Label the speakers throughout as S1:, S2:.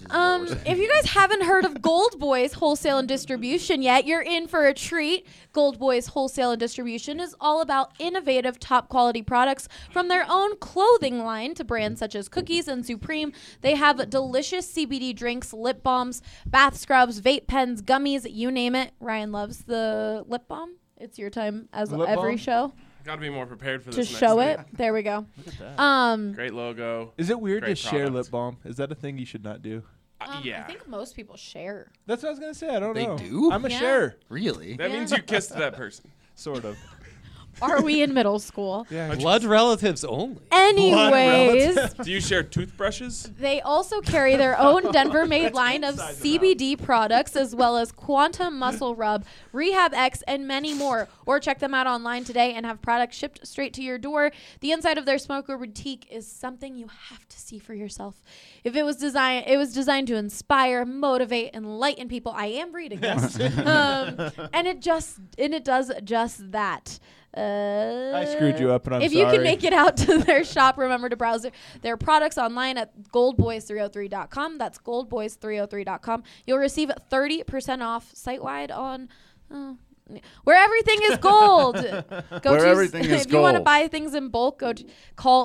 S1: If you guys haven't heard of Gold Boys Wholesale and Distribution yet, you're in for a treat. Gold Boys Wholesale and Distribution is all about innovative, top quality products from their own clothing line to brands such as Cookies and Supreme. They have delicious CBD drinks, lip balms, bath scrubs, vape pens, gummies, you name it. Ryan loves the lip balm. It's your time as
S2: Lip
S1: every
S2: balm?
S1: show
S3: Got to be more prepared for
S1: to
S3: this.
S1: show
S3: next
S1: it. There we go.
S2: Look at that.
S3: Great logo.
S2: Is it weird to
S3: Great
S2: share
S3: product.
S2: lip balm? Is that a thing you should not do?
S3: Yeah.
S1: I think most people share.
S2: That's what I was going to say. I don't
S4: They
S2: know.
S4: do?
S2: I'm a
S1: Yeah.
S2: sharer.
S4: Really?
S3: That means you kissed that person.
S2: Sort of.
S1: Are we in middle school?
S2: Yeah.
S5: Blood relatives only.
S1: Anyways,
S3: Do you share toothbrushes?
S1: they also carry their own Denver-made line of CBD products, as well as Quantum Muscle Rub, Rehab X, and many more. Or check them out online today and have products shipped straight to your door. The inside of their smoker boutique is something you have to see for yourself. It was designed to inspire, motivate, enlighten people. I am reading this, and it does just that.
S2: I screwed you up, and I'm
S1: if
S2: sorry.
S1: you can make it out to their shop, remember to browse their products online at goldboys303.com. That's goldboys303.com. You'll receive 30% off site-wide on where everything is gold.
S6: Where everything is
S1: If you want to
S6: gold.
S1: buy things in bulk, call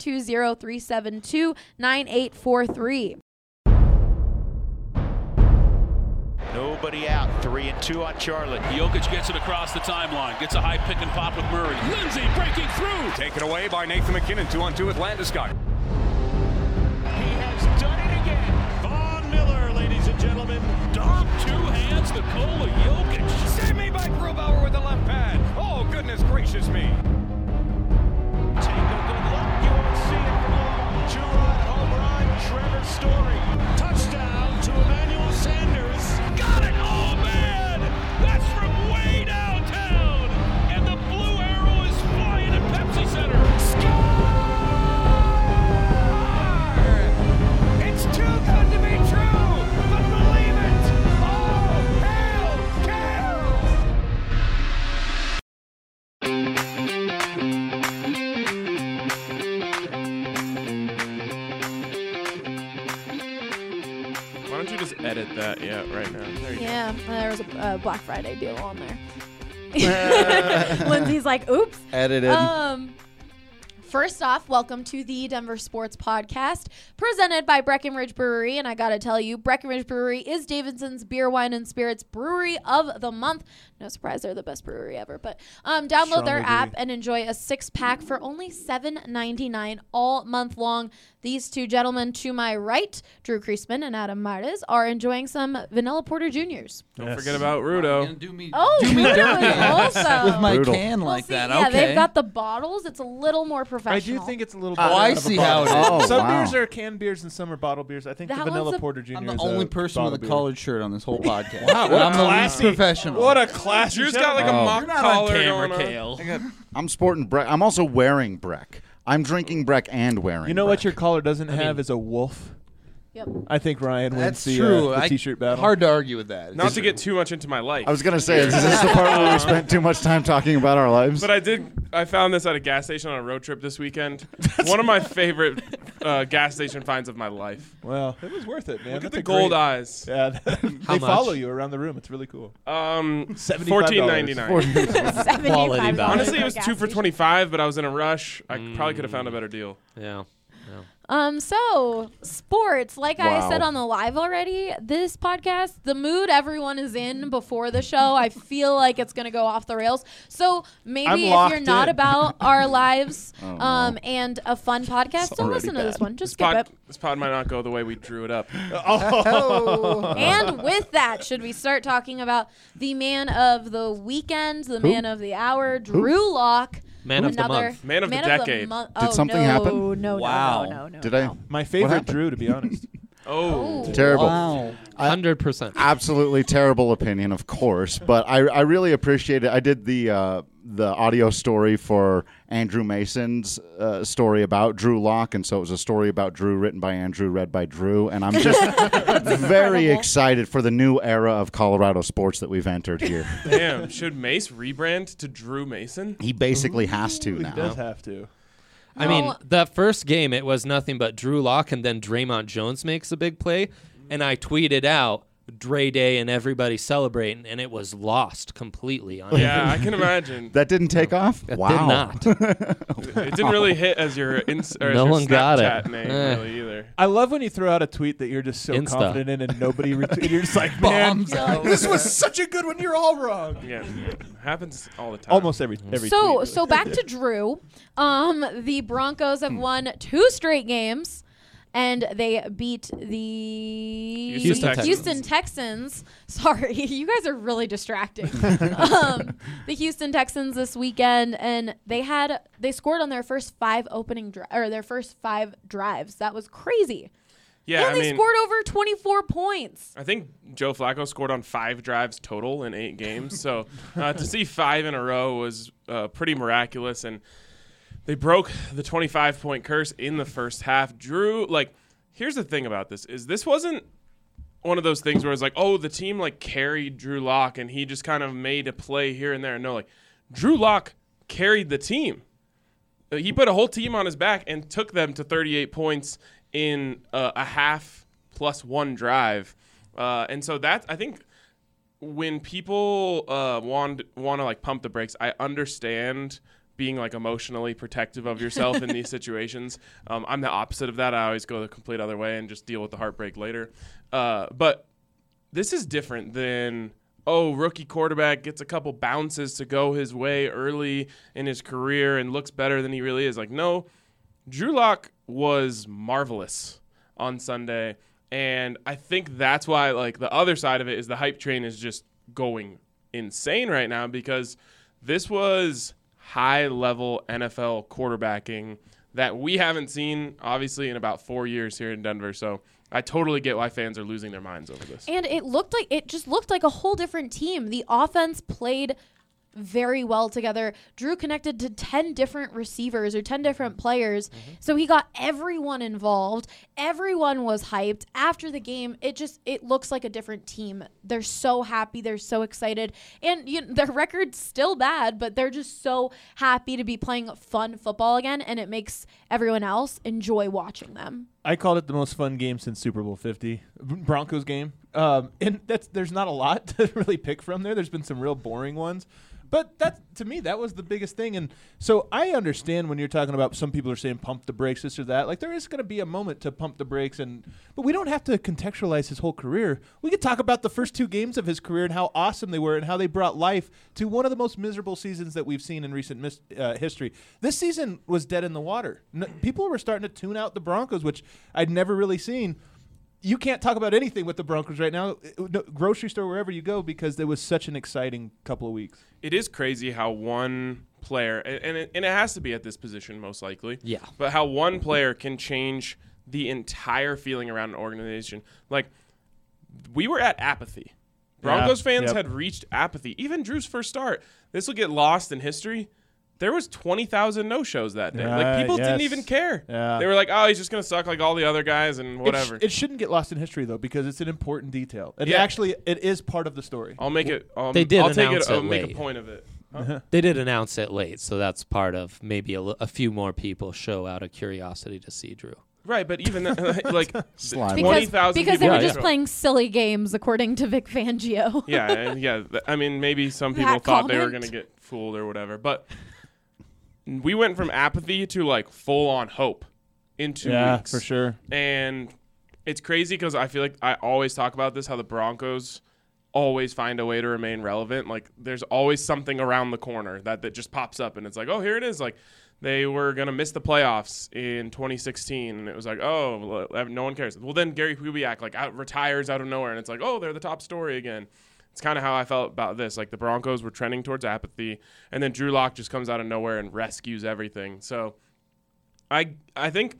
S1: 720-372-9843.
S7: Nobody out. 3-2 on Charlotte.
S8: Jokic gets it across the timeline. Gets a high pick and pop with Murray. Lindsay breaking through.
S9: Taken away by Nathan McKinnon. 2-on-2 with Landeskog.
S7: He has done it again.
S8: Von Miller, ladies and gentlemen. Dom, two hands, Nikola Jokic.
S9: Save me by Grubauer with the left pad. Oh, goodness gracious me.
S7: Take a good look. You won't see it for long. Two-run home run. Trevor Story.
S8: Touchdown to Emmanuel Sanders. Got it! Oh, man! That's from way downtown. And the blue arrow is flying at Pepsi Center.
S7: It's too good to be true, but believe it. Oh, hail,
S3: Why don't you just edit that? Yeah, right now. There you
S1: Yeah, there was a Black Friday deal on there. Lindsay's like, oops.
S6: Edited.
S1: First off, welcome to the Denver Sports Podcast, presented by Breckenridge Brewery. And I got to tell you, Breckenridge Brewery is Davidson's Beer, Wine, and Spirits Brewery of the Month. No surprise, they're the best brewery ever. But download
S2: Strong
S1: their
S2: agree.
S1: app and enjoy a 6-pack for only $7.99 all month long. These two gentlemen to my right, Drew Kreisman and Adam Martes, are enjoying some Vanilla Porter Juniors.
S3: go. Don't forget about Rudo.
S4: Do me
S1: Rudo is also.
S4: with my
S6: Brutal.
S4: can
S1: We'll
S4: like
S1: see.
S4: that.
S1: Yeah,
S4: Okay.
S1: they've got the bottles. It's a little more
S2: I
S1: professional.
S2: do think it's a little
S4: Oh,
S2: better
S4: I
S2: out of a
S4: see how
S2: bottle.
S4: it
S6: is.
S2: Some
S6: Oh, wow.
S2: beers are canned beers and some are bottle beers. I think
S1: That
S2: the
S1: one's
S2: Vanilla
S1: a-
S2: Porter Jr.
S4: I'm the
S2: is
S4: only
S2: a
S4: person with a
S2: bottle beer.
S4: collared shirt on this whole podcast.
S2: Wow, what a
S4: I'm the least
S2: classy-
S4: professional.
S2: What a class!
S3: Drew's got like a
S6: Oh.
S3: mock
S5: You're not on
S3: collar
S5: camera,
S3: going on.
S5: Kale.
S6: I'm sporting Breck. I'm also wearing Breck. I'm drinking Breck and wearing
S2: You know what
S6: Breck.
S2: your collar doesn't have is a wolf.
S1: Yep.
S2: I think Ryan wins
S4: That's
S2: the,
S4: true.
S2: the T-shirt battle.
S4: Hard to argue with that.
S3: Not to get too much into my life.
S6: I was going to say, is this the part where we spent too much time talking about our lives?
S3: But I found this at a gas station on a road trip this weekend. One of my favorite gas station finds of my life.
S2: Well, it was worth it, man.
S3: Look at
S2: That's
S3: the
S2: a
S3: gold
S2: great-
S3: eyes.
S2: Yeah, they
S5: much?
S2: follow you around the room. It's really cool.
S3: $14.99.
S5: Quality value.
S3: Honestly, it was 2 for $25, but I was in a rush. I probably could have found a better deal.
S5: Yeah.
S1: So sports, like I
S6: Wow.
S1: said on the live already, this podcast, the mood everyone is in before the show, I feel like it's going to go off the rails. So maybe
S2: I'm
S1: if
S2: locked
S1: you're not
S2: in.
S1: about our lives
S6: Oh, no.
S1: and a fun podcast, don't
S6: already
S1: listen to this
S6: bad.
S1: one. Just skip it.
S3: This pod might not go the way we drew it up.
S1: And with that, should we start talking about the man of the weekend, the man of the hour, Drew Lock?
S5: Man of the
S1: Another
S5: month.
S3: Man of the decade.
S1: Oh,
S6: something
S1: no,
S6: happen?
S1: No,
S5: Wow.
S1: no.
S6: Did I?
S2: My
S6: What
S2: favorite
S6: happened?
S2: Drew, to be honest.
S3: Oh.
S6: Terrible.
S4: Wow.
S5: 100%.
S6: Absolutely terrible opinion, of course, but I really appreciate it. I did the audio story for Andrew Mason's story about Drew Lock, and so it was a story about Drew written by Andrew, read by Drew, and I'm just very excited for the new era of Colorado sports that we've entered here.
S3: Damn. Should Mace rebrand to Drew Mason?
S6: He basically has to
S2: He
S6: now.
S2: does have to.
S5: I mean, that first game, it was nothing but Drew Lock, and then Draymond Jones makes a big play. and I tweeted out Dre Day and everybody celebrating, and it was lost completely on
S3: Yeah, I can imagine.
S6: That didn't take off?
S5: It
S6: Wow.
S5: did not.
S3: It didn't really hit as your or as
S5: No
S3: your
S5: one got it.
S3: Snapchat name
S5: Eh.
S3: really either.
S2: I love when you throw out a tweet that you're just so
S5: Insta.
S2: confident in and nobody retweeted. You're just like, man, this was such a good one. You're all wrong.
S3: Yeah, happens all the time.
S2: Almost every
S1: So
S2: tweet.
S1: so back to Drew. The Broncos have won 2 straight games, and they beat the
S3: Houston
S1: Texans. Sorry, you guys are really distracting. The Houston Texans this weekend, and they scored on their first 5 their first 5 drives. That was crazy.
S3: Yeah,
S1: and they scored over 24 points.
S3: I think Joe Flacco scored on 5 drives total in 8 games. So to see 5 in a row was pretty miraculous. And they broke the 25-point curse in the first half. Drew, here's the thing about this, is this wasn't one of those things where it's like, oh, the team, carried Drew Lock and he just kind of made a play here and there. No, Drew Lock carried the team. He put a whole team on his back and took them to 38 points in a half plus 1 drive. And so that, I think, when people want to pump the brakes, I understand being emotionally protective of yourself in these situations. I'm the opposite of that. I always go the complete other way and just deal with the heartbreak later. But this is different than, rookie quarterback gets a couple bounces to go his way early in his career and looks better than he really is. No, Drew Lock was marvelous on Sunday. And I think that's why, the other side of it is the hype train is just going insane right now, because this was high-level NFL quarterbacking that we haven't seen, obviously, in about 4 years here in Denver. So I totally get why fans are losing their minds over this.
S1: And it just looked like a whole different team. The offense played very well together. Drew connected to 10 different receivers or 10 different players. So he got everyone involved. Everyone was hyped. After the game, it looks like a different team. They're so happy. They're so excited. And their record's still bad, but they're just so happy to be playing fun football again, and it makes everyone else enjoy watching them.
S2: I called it the most fun game since Super Bowl 50, Broncos game. And there's not a lot to really pick from there. There's been some real boring ones. But to me, that was the biggest thing. And so I understand when you're talking about some people are saying pump the brakes, this or that. There is going to be a moment to pump the brakes. But we don't have to contextualize his whole career. We could talk about the first 2 games of his career and how awesome they were and how they brought life to one of the most miserable seasons that we've seen in recent history. This season was dead in the water. People were starting to tune out the Broncos, which I'd never really seen. You can't talk about anything with the Broncos right now, grocery store, wherever you go, because there was such an exciting couple of weeks.
S3: It is crazy how one player, and it has to be at this position most likely, but how one player can change the entire feeling around an organization. We were at apathy. Broncos fans had reached apathy. Even Drew's first start. This will get lost in history. There was 20,000 no-shows that day. People didn't even care.
S2: Yeah.
S3: They were like, oh, he's just going to suck like all the other guys and whatever.
S2: It shouldn't get lost in history, though, because it's an important detail. And actually, it is part of the story.
S3: I'll make it.
S5: They did
S3: I'll
S5: announce
S3: I'll
S5: it
S3: make a
S5: late.
S3: point of it.
S5: They did announce it late, so that's part of maybe a few more people show out of curiosity to see Drew.
S3: Right, but even 20,000
S1: because
S3: people.
S1: they were just playing silly games, according to Vic Fangio.
S3: I mean, maybe some people thought they were going to get fooled or whatever, but we went from apathy to full on hope in 2 weeks.
S2: Yeah, for sure.
S3: And it's crazy because I feel like I always talk about this, how the Broncos always find a way to remain relevant. There's always something around the corner that just pops up, and it's like, oh, here it is. They were going to miss the playoffs in 2016, and it was like, oh, no one cares. Well, then Gary Kubiak retires out of nowhere, and it's like, oh, they're the top story again. It's kind of how I felt about this. The Broncos were trending towards apathy, and then Drew Lock just comes out of nowhere and rescues everything. So I think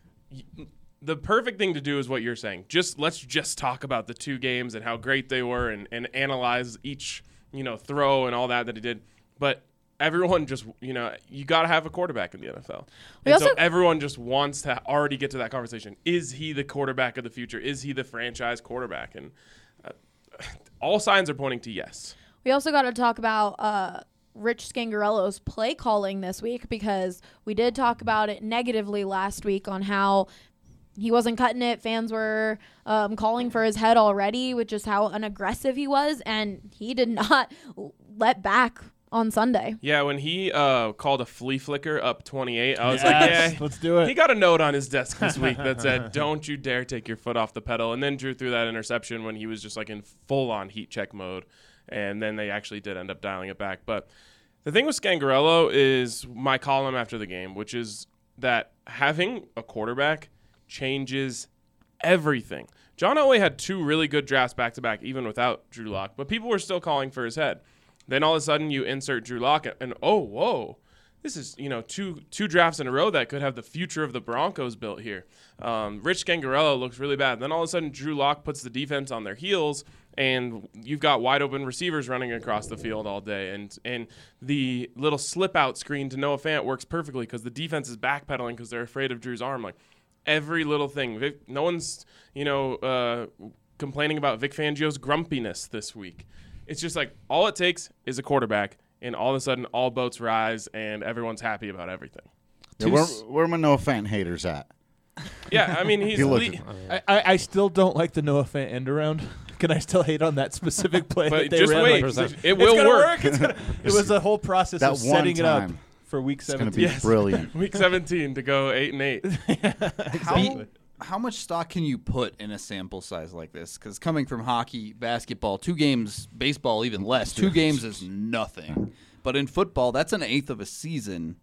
S3: the perfect thing to do is what you're saying. Let's just talk about the 2 games and how great they were and analyze each, throw and all that he did. But everyone just, you got to have a quarterback in the NFL. So everyone just wants to already get to that conversation. Is he the quarterback of the future? Is he the franchise quarterback? And all signs are pointing to yes.
S1: We also got to talk about Rich Scangarello's play calling this week, because we did talk about it negatively last week on how he wasn't cutting it. Fans were calling for his head already, with just how unaggressive he was, and he did not let back on Sunday.
S3: Yeah, when he called a flea flicker up 28, I was like, yeah,
S2: let's do it.
S3: He got a note on his desk this week that said, don't you dare take your foot off the pedal. And then Drew threw that interception when he was just like in full-on heat check mode. And then they actually did end up dialing it back. But the thing with Scangarello is my column after the game, which is that having a quarterback changes everything. John Elway had 2 really good drafts back-to-back, even without Drew Lock, but people were still calling for his head. Then all of a sudden you insert Drew Lock, and oh, whoa, this is, two drafts in a row that could have the future of the Broncos built here. Rich Scangarello looks really bad. Then all of a sudden Drew Lock puts the defense on their heels, and you've got wide open receivers running across the field all day. And the little slip out screen to Noah Fant works perfectly because the defense is backpedaling because they're afraid of Drew's arm. Like every little thing. No one's, complaining about Vic Fangio's grumpiness this week. It's just like all it takes is a quarterback, and all of a sudden all boats rise and everyone's happy about everything.
S6: Yeah, where are my Noah Fant haters at?
S3: Yeah, I mean, he's
S2: I still don't like the Noah Fant end around. Can I still hate on that specific play?
S3: But
S2: that they
S3: just
S2: ran?
S3: wait. It will work.
S2: It was a whole process
S6: that
S2: of setting it up
S6: time
S2: for week 17.
S6: It's going to be brilliant.
S3: Week 17 to go 8-8.
S4: How much stock can you put in a sample size like this? Because coming from hockey, basketball, 2 games, baseball even less, 2 games is nothing. But in football, that's an eighth of a season.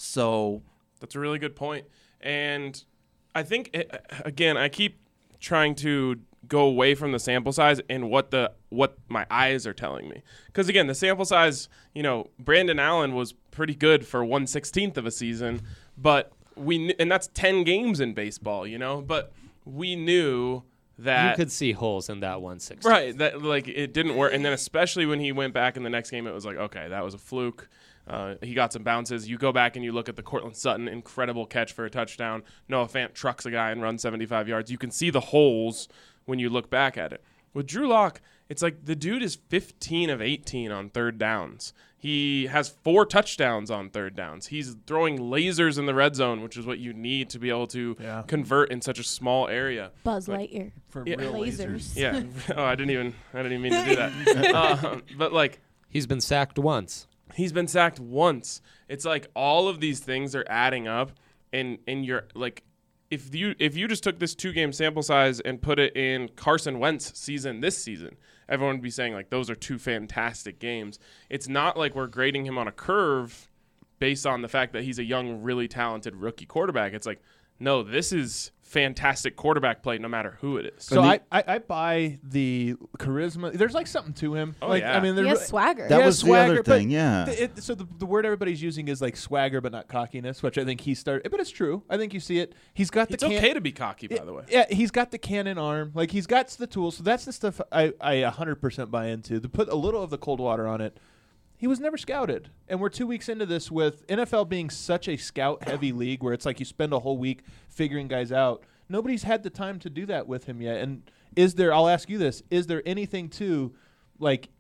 S4: So
S3: that's a really good point. And I think, again, I keep trying to go away from the sample size and what my eyes are telling me. Because, again, the sample size, Brandon Allen was pretty good for 1/16 of a season, but and that's 10 games in baseball, but we knew that
S5: you could see holes in that 1/16.
S3: Right, that it didn't work. And then especially when he went back in the next game, it was like, okay, that was a fluke. He got some bounces. You go back and you look at the Cortland Sutton incredible catch for a touchdown. Noah Fant trucks a guy and runs 75 yards. You can see the holes when you look back at it. With Drew Lock, it's like the dude is 15 of 18 on third downs. He has 4 touchdowns on third downs. He's throwing lasers in the red zone, which is what you need to be able to convert in such a small area.
S1: Buzz Lightyear
S2: for
S1: real
S2: lasers.
S3: Yeah. Oh, I didn't even mean to do that. But
S5: he's been sacked once.
S3: He's been sacked once. It's like all of these things are adding up, and you're like, if you just took this 2-game sample size and put it in Carson Wentz this season, everyone would be saying like those are 2 fantastic games. It's not like we're grading him on a curve based on the fact that he's a young, really talented rookie quarterback. It's like, no, this is fantastic quarterback play no matter who it is.
S2: So I buy the charisma. There's like something to him.
S3: Oh, yeah.
S2: I mean,
S1: he has swagger.
S6: That was
S2: swagger,
S6: the other thing, yeah.
S2: So the word everybody's using is like swagger, but not cockiness, which I think he started. But it's true. I think you see it. He's got the.
S3: It's okay to be cocky, by the way.
S2: Yeah, he's got the cannon arm. Like he's got the tools. So that's the stuff I 100% buy into. To put a little of the cold water on it. He was never scouted. And we're 2 weeks into this with NFL being such a scout-heavy league where it's like you spend a whole week figuring guys out. Nobody's had the time to do that with him yet. And I'll ask you this, is there anything to, like,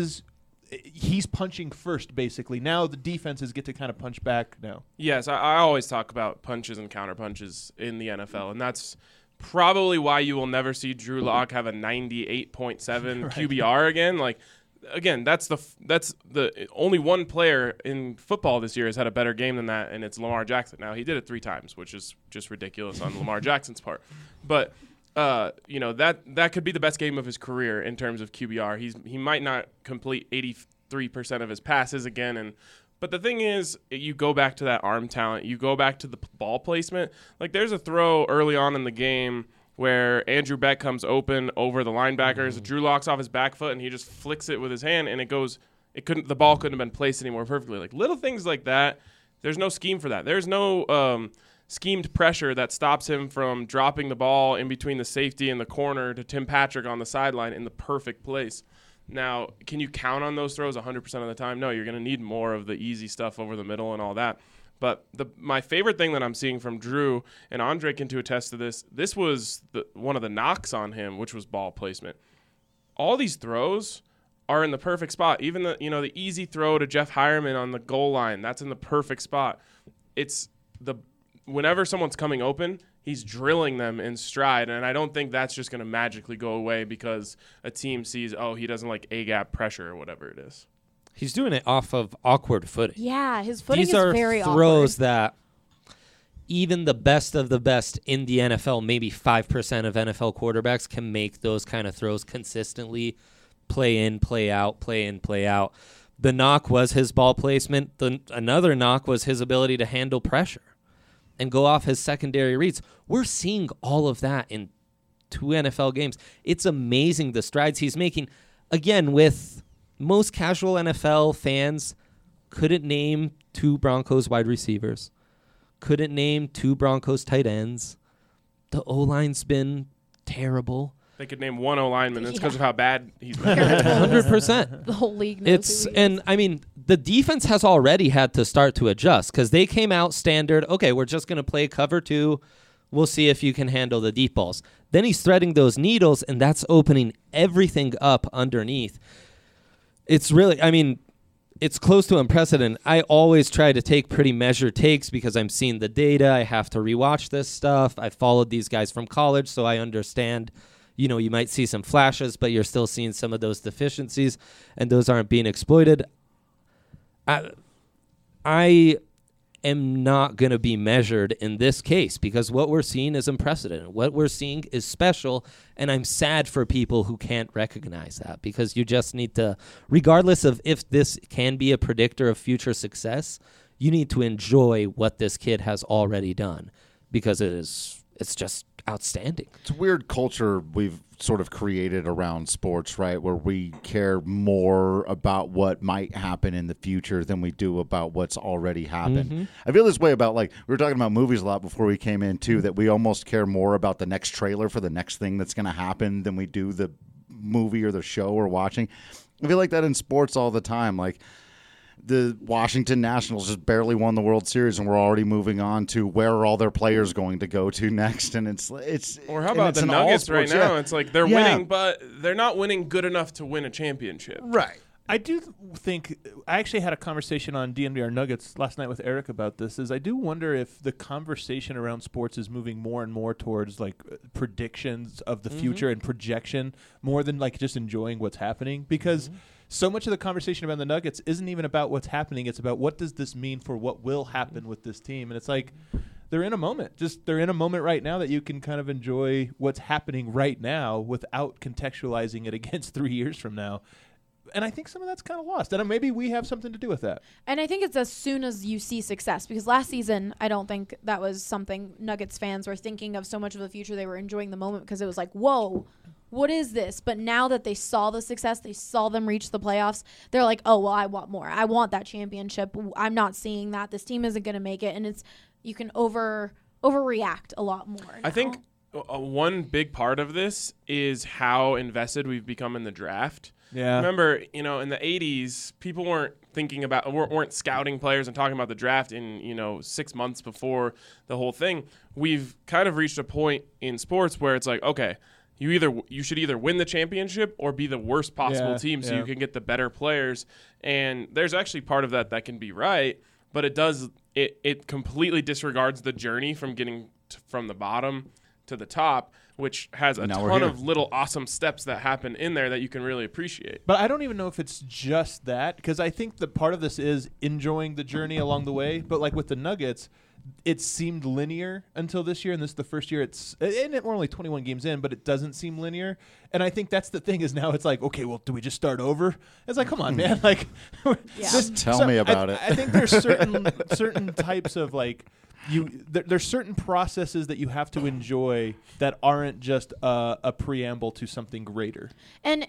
S2: he's punching first, basically. Now the defenses get to kind of punch back now.
S3: Yes, I always talk about punches and counter punches in the NFL, and that's probably why you will never see Drew Lock have a 98.7
S2: right.
S3: QBR again. Like, again, that's the only one player in football this year has had a better game than that, and it's Lamar Jackson. Now, he did it 3 times, which is just ridiculous on Lamar Jackson's part. But that could be the best game of his career in terms of QBR. He might not complete 83% of his passes again, but the thing is, you go back to that arm talent, you go back to the ball placement. Like, there's a throw early on in the game where Andrew Beck comes open over the linebackers. Drew Lock's off his back foot, and he just flicks it with his hand, and the ball couldn't have been placed any more perfectly. Like, little things like that, there's no scheme for that. There's no schemed pressure that stops him from dropping the ball in between the safety and the corner to Tim Patrick on the sideline in the perfect place. Now, can you count on those throws 100% of the time? No, you're going to need more of the easy stuff over the middle and all that. But my favorite thing that I'm seeing from Drew, and Andre can attest to this was one of the knocks on him, which was ball placement. All these throws are in the perfect spot. Even the easy throw to Jeff Hireman on the goal line, that's in the perfect spot. It's whenever someone's coming open, he's drilling them in stride, and I don't think that's just going to magically go away because a team sees, oh, he doesn't like A-gap pressure or whatever it is.
S5: He's doing it off of awkward footing.
S1: Yeah, his footing
S5: These
S1: is
S5: are
S1: very
S5: throws
S1: awkward.
S5: that even the best of the best in the NFL, maybe 5% of NFL quarterbacks can make those kind of throws consistently, play in, play out, play in, play out. The knock was his ball placement. Another knock was his ability to handle pressure and go off his secondary reads. We're seeing all of that in 2 NFL games. It's amazing the strides he's making. Again, with most casual NFL fans, couldn't name 2 Broncos wide receivers, couldn't name 2 Broncos tight ends. The O-line's been terrible.
S3: They could name 1 O-lineman. It's because of how bad he's been.
S5: 100%.
S1: The whole league knows who he is.
S5: I mean, the defense has already had to start to adjust because they came out standard. Okay, we're just going to play cover 2. We'll see if you can handle the deep balls. Then he's threading those needles, and that's opening everything up underneath. It's really, I mean, it's close to unprecedented. I always try to take pretty measured takes because I'm seeing the data. I have to rewatch this stuff. I followed these guys from college, so I understand. You know, you might see some flashes, but you're still seeing some of those deficiencies, and those aren't being exploited. I am not going to be measured in this case because what we're seeing is unprecedented. What we're seeing is special, and I'm sad for people who can't recognize that because you just need to, regardless of if this can be a predictor of future success, you need to enjoy what this kid has already done because it's just outstanding.
S6: It's a weird culture we've sort of created around sports, right, where we care more about what might happen in the future than we do about what's already happened.
S5: Mm-hmm.
S6: I feel this way about, like, we were talking about movies a lot before we came in, too, that we almost care more about the next trailer for the next thing that's going to happen than we do the movie or the show we're watching. I feel like that in sports all the time. Like, the Washington Nationals just barely won the World Series, and we're already moving on to where are all their players going to go to next. And it's
S3: or how about the Nuggets right now? It's like they're winning, but they're not winning good enough to win a championship.
S6: Right.
S2: I do think I actually had a conversation on DNVR Nuggets last night with Eric about this. I do wonder if the conversation around sports is moving more and more towards like predictions of the future and projection more than like just enjoying what's happening because. So much of the conversation about the Nuggets isn't even about what's happening. It's about what does this mean for what will happen with this team. And it's like they're in a moment. They're in a moment right now that you can kind of enjoy what's happening right now without contextualizing it against 3 years from now. And I think some of that's kind of lost. And maybe we have something to do with that.
S1: And I think it's as soon as you see success. Because last season, I don't think that was something Nuggets fans were thinking of so much of the future. They were enjoying the moment because it was like, whoa, what is this? But now that they saw the success, they saw them reach the playoffs, they're like, oh, well, I want more. I want that championship. I'm not seeing that. This team isn't going to make it. And you can overreact a lot more now.
S3: I think one big part of this is how invested we've become in the draft.
S2: Yeah.
S3: Remember, in the 80s, people weren't scouting players and talking about the draft in, 6 months before the whole thing. We've kind of reached a point in sports where it's like, okay, you should either win the championship or be the worst possible team so you can get the better players. And there's actually part of that can be right, but it completely disregards the journey from getting from the bottom to the top, which has a ton of little awesome steps that happen in there that you can really appreciate.
S2: But I don't even know if it's just that, because I think that part of this is enjoying the journey along the way. But like with the Nuggets, it seemed linear until this year, and this is the first year we're only 21 games in, but it doesn't seem linear. And I think that's the thing is now it's like, okay, well, do we just start over? It's like, come on, man. Like,
S6: just tell me about it.
S2: I think there's certain types of like, there's certain processes that you have to enjoy that aren't just a preamble to something greater.
S1: And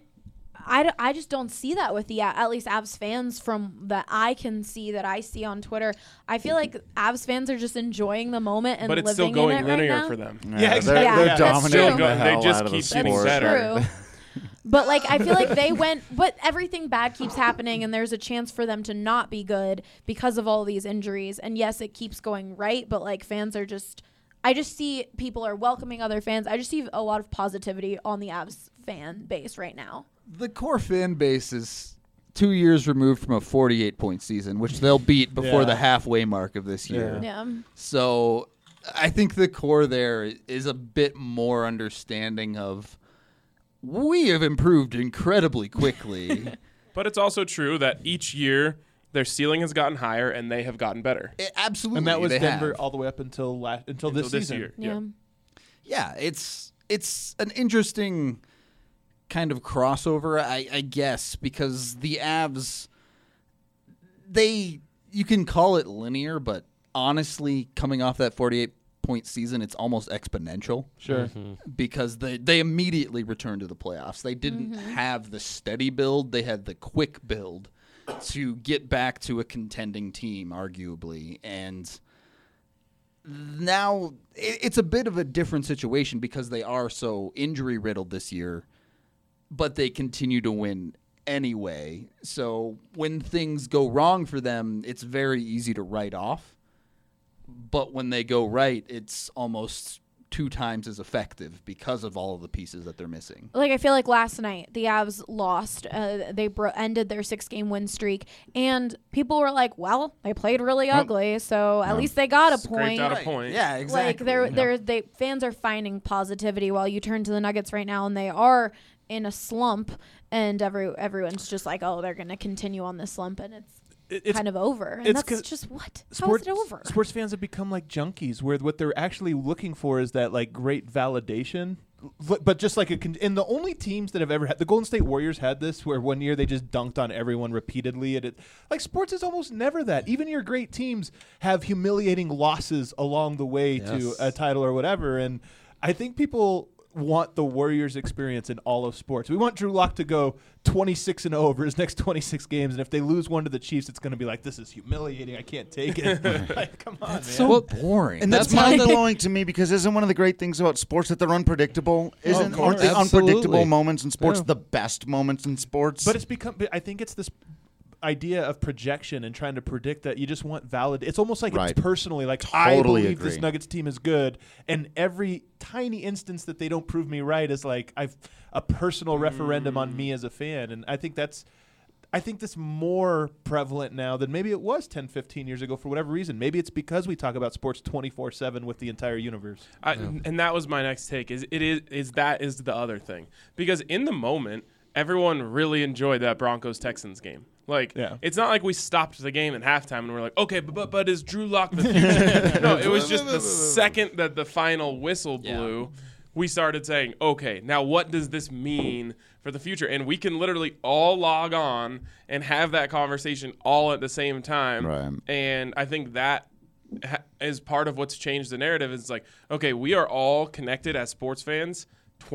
S1: I just don't see that with at least Avs fans from that I can see that I see on Twitter. I feel like Avs fans are just enjoying the moment and living in it right now.
S3: But it's still going linear for them.
S2: Yeah, exactly.
S6: They're dominating the hell
S3: they just
S6: out of
S3: keep
S6: the
S3: getting
S6: sport.
S3: better.
S1: True. But like I feel like but everything bad keeps happening and there's a chance for them to not be good because of all these injuries. And yes, it keeps going right, but like fans are I just see people are welcoming other fans. I just see a lot of positivity on the Avs fan base right now.
S4: The core fan base is 2 years removed from a 48-point season, which they'll beat before the halfway mark of this year.
S1: Yeah.
S4: So I think the core there is a bit more understanding of we have improved incredibly quickly.
S3: But it's also true that each year their ceiling has gotten higher and they have gotten better.
S4: Absolutely.
S2: And that was
S4: they
S2: Denver
S4: have.
S2: all the way up until this season.
S3: year.
S1: Yeah.
S4: Yeah, it's an interesting kind of crossover, I guess, because the Avs, you can call it linear, but honestly, coming off that 48-point season, it's almost exponential.
S2: Sure.
S4: Because they immediately returned to the playoffs. They didn't have the steady build. They had the quick build to get back to a contending team, arguably. And now it's a bit of a different situation because they are so injury-riddled this year, but they continue to win anyway. So when things go wrong for them, it's very easy to write off. But when they go right, it's almost 2 times as effective because of all of the pieces that they're missing.
S1: Like, I feel like last night the Avs lost. They ended their 6-game win streak, and people were like, "Well, they played really ugly, so at least they got a point."
S3: Scraped out a point.
S4: Yeah, exactly.
S1: Like fans are finding positivity while you turn to the Nuggets right now, and they are in a slump, and everyone's just like, "Oh, they're going to continue on this slump," and it's kind of over. And that's just what? How is it over?
S2: Sports fans have become like junkies, where what they're actually looking for is that like great validation, but just like and the only teams that have ever had, the Golden State Warriors had this, where one year they just dunked on everyone repeatedly, and like sports is almost never that. Even your great teams have humiliating losses along the way to a title or whatever, and I think people want the Warriors experience in all of sports. We want Drew Lock to go 26-0 over his next 26 games, and if they lose one to the Chiefs, it's going to be like, this is humiliating. I can't take it. Like, come on, man.
S4: So boring.
S6: And that's mind-blowing to me, because isn't one of the great things about sports that they're unpredictable? Aren't the unpredictable moments in sports the best moments in sports?
S2: But it's become. I think it's this idea of projection and trying to predict that you just want valid. It's almost like it's personally like, I believe this Nuggets team is good, and every tiny instance that they don't prove me right is like I've a personal referendum on me as a fan. And I think that's more prevalent now than maybe it was 10, 15 years ago for whatever reason. Maybe it's because we talk about sports 24/7 with the entire universe.
S3: And that was my next take. Is the other thing, because in the moment everyone really enjoyed that Broncos-Texans game. Like, it's not like we stopped the game at halftime and we're like, okay, but is Drew Lock the future? No, it was just the second that the final whistle blew, we started saying, okay, now what does this mean for the future? And we can literally all log on and have that conversation all at the same time.
S6: Right.
S3: And I think that is part of what's changed the narrative. It's like, okay, we are all connected as sports fans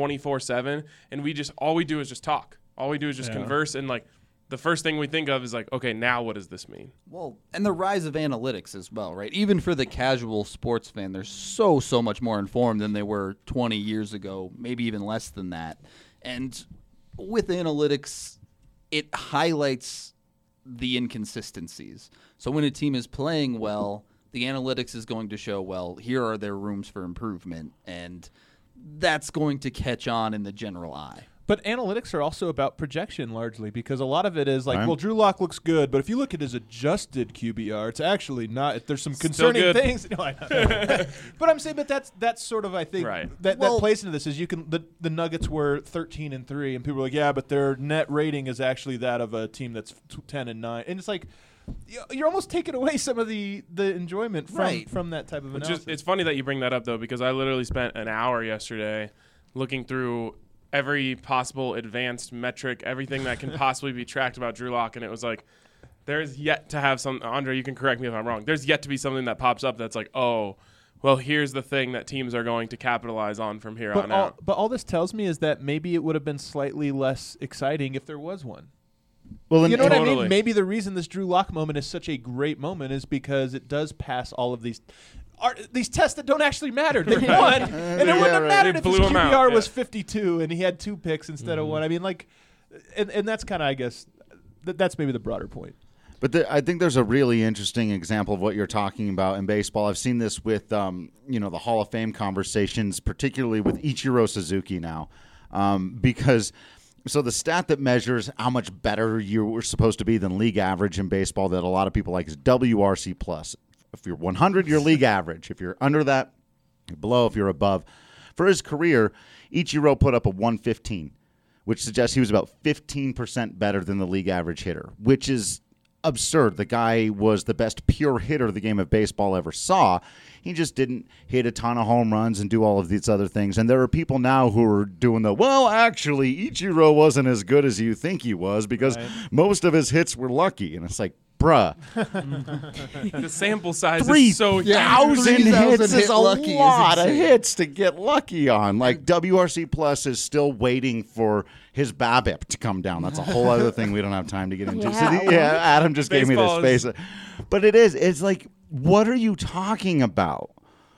S3: 24/7, and all we do is just talk. All we do is just converse, and like the first thing we think of is like, okay, now what does this mean?
S4: Well, and the rise of analytics as well, right? Even for the casual sports fan, they're so much more informed than they were 20 years ago, maybe even less than that. And with analytics, it highlights the inconsistencies. So when a team is playing well, the analytics is going to show, well, here are their rooms for improvement, and that's going to catch on in the general eye.
S2: But analytics are also about projection largely, because a lot of it is like, well, Drew Lock looks good, but if you look at his adjusted QBR, it's actually not. There's some concerning things. No, I know. But I'm saying, but that's sort of, I think, that plays into this. Is you can the Nuggets were 13-3, and people are like, yeah, but their net rating is actually that of a team that's 10-9, and it's like, you're almost taking away some of the enjoyment from that type of analysis.
S3: It's funny that you bring that up, though, because I literally spent an hour yesterday looking through every possible advanced metric, everything that can possibly be tracked about Drew Lock, and it was like, there's yet to have some, Andre, you can correct me if I'm wrong, there's yet to be something that pops up that's like, oh, well, here's the thing that teams are going to capitalize on from here on out.
S2: But all this tells me is that maybe it would have been slightly less exciting if there was one.
S6: Well,
S2: you know what I mean? Maybe the reason this Drew Lock moment is such a great moment is because it does pass all of these tests that don't actually matter. They won, and it wouldn't have mattered if his QBR was 52 and he had 2 picks instead of 1. I mean, like, and that's kind of, I guess, that's maybe the broader point.
S6: But I think there's a really interesting example of what you're talking about in baseball. I've seen this with, the Hall of Fame conversations, particularly with Ichiro Suzuki now, because – so the stat that measures how much better you were supposed to be than league average in baseball that a lot of people like is WRC+. If you're 100, you're league average. If you're under that, below if you're above. For his career, Ichiro put up a 115, which suggests he was about 15% better than the league average hitter, which is absurd. The guy was the best pure hitter the game of baseball ever saw. He just didn't hit a ton of home runs and do all of these other things. And there are people now who are doing actually, Ichiro wasn't as good as you think he was because most of his hits were lucky. And it's like, bruh.
S3: The sample size is so huge.
S6: 3,000 hits is a
S4: lucky is
S6: lot of
S4: insane.
S6: hits to get lucky on. Like, WRC Plus is still waiting for his BABIP to come down. That's a whole other thing we don't have time to get into.
S1: Yeah.
S6: Adam just gave me
S3: Baseball
S6: this face. But it's like, what are you talking about?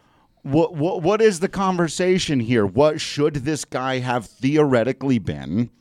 S6: What is the conversation here? What should this guy have theoretically been?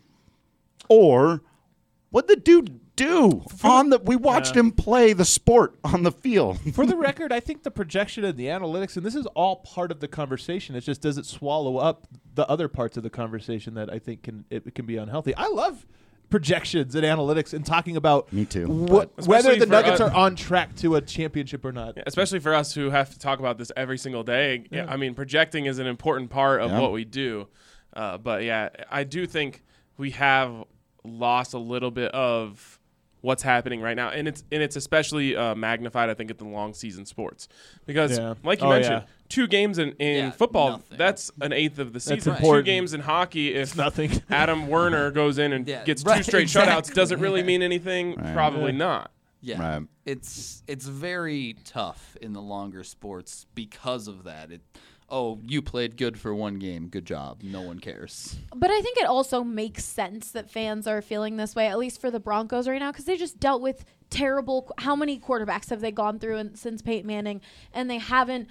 S6: Or what the dude do we watched him play the sport on the field.
S2: For the record, I think the projection and the analytics, and this is all part of the conversation. It's just, does it swallow up the other parts of the conversation that I think it can be unhealthy? I love projections and analytics and talking about
S6: Me too.
S2: whether
S3: Especially
S2: the
S3: for
S2: Nuggets
S3: us.
S2: are on track to a championship or not.
S3: Yeah, especially for us who have to talk about this every single day. Yeah. I mean, projecting is an important part of what we do. But yeah, I do think we have lost a little bit of what's happening right now, and it's especially magnified, I think, at the long season sports because, like you mentioned, 2 games in football,
S4: nothing.
S3: that's an eighth of the season.
S2: important.
S3: 2 games in hockey, if
S2: Nothing.
S3: Adam Werner goes in and gets 2
S4: right,
S3: straight
S4: exactly.
S3: shutouts, does it really mean anything? Probably not.
S4: Yeah,
S6: Right.
S4: it's very tough in the longer sports because of that. You played good for 1 game. Good job. No one cares.
S1: But I think it also makes sense that fans are feeling this way, at least for the Broncos right now, because they just dealt with terrible. How many quarterbacks have they gone through since Peyton Manning, and they haven't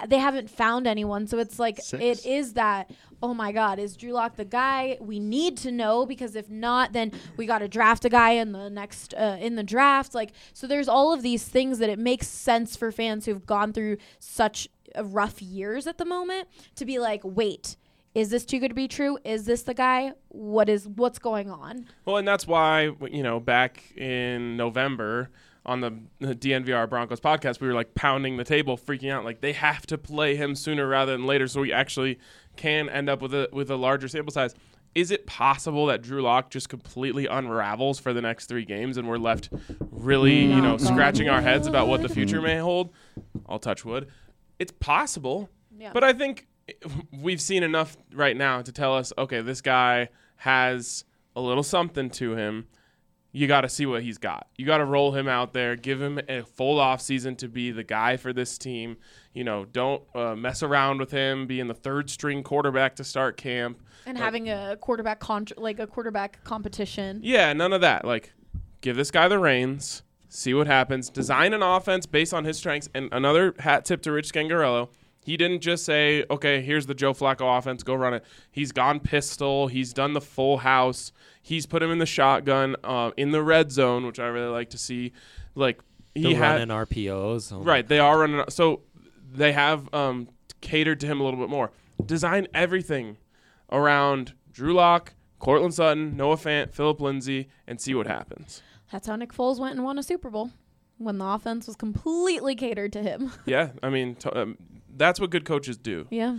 S1: found anyone. So it's like
S6: 6.
S1: it is that. Oh my God, is Drew Lock the guy? We need to know, because if not, then we got to draft a guy in the next in the draft. Like, so there's all of these things that it makes sense for fans who've gone through such rough years at the moment to be like, wait, is this too good to be true? Is this the guy? What's going on?
S3: Well, and that's why, back in November on the DNVR Broncos podcast, we were like pounding the table, freaking out, like they have to play him sooner rather than later so we actually can end up with a larger sample size. Is it possible that Drew Lock just completely unravels for the next 3 games and we're left really, scratching our heads about what the future may hold? I'll touch wood. It's possible, but I think we've seen enough right now to tell us, okay, this guy has a little something to him. You got to see what he's got. You got to roll him out there, give him a full off season to be the guy for this team. Don't mess around with him being the 3rd string quarterback to start camp
S1: And having a quarterback quarterback competition.
S3: Yeah, none of that. Like, give this guy the reins. See what happens. Design an offense based on his strengths. And another hat tip to Rich Scangarello. He didn't just say, okay, here's the Joe Flacco offense, go run it. He's gone pistol. He's done the full house. He's put him in the shotgun, in the red zone, which I really like to see. Like,
S5: They're running RPOs.
S3: Right, they are running. So they have catered to him a little bit more. Design everything around Drew Lock, Courtland Sutton, Noah Fant, Phillip Lindsay, and see what happens.
S1: That's how Nick Foles went and won a Super Bowl, when the offense was completely catered to him.
S3: Yeah, I mean, that's what good coaches do.
S1: Yeah.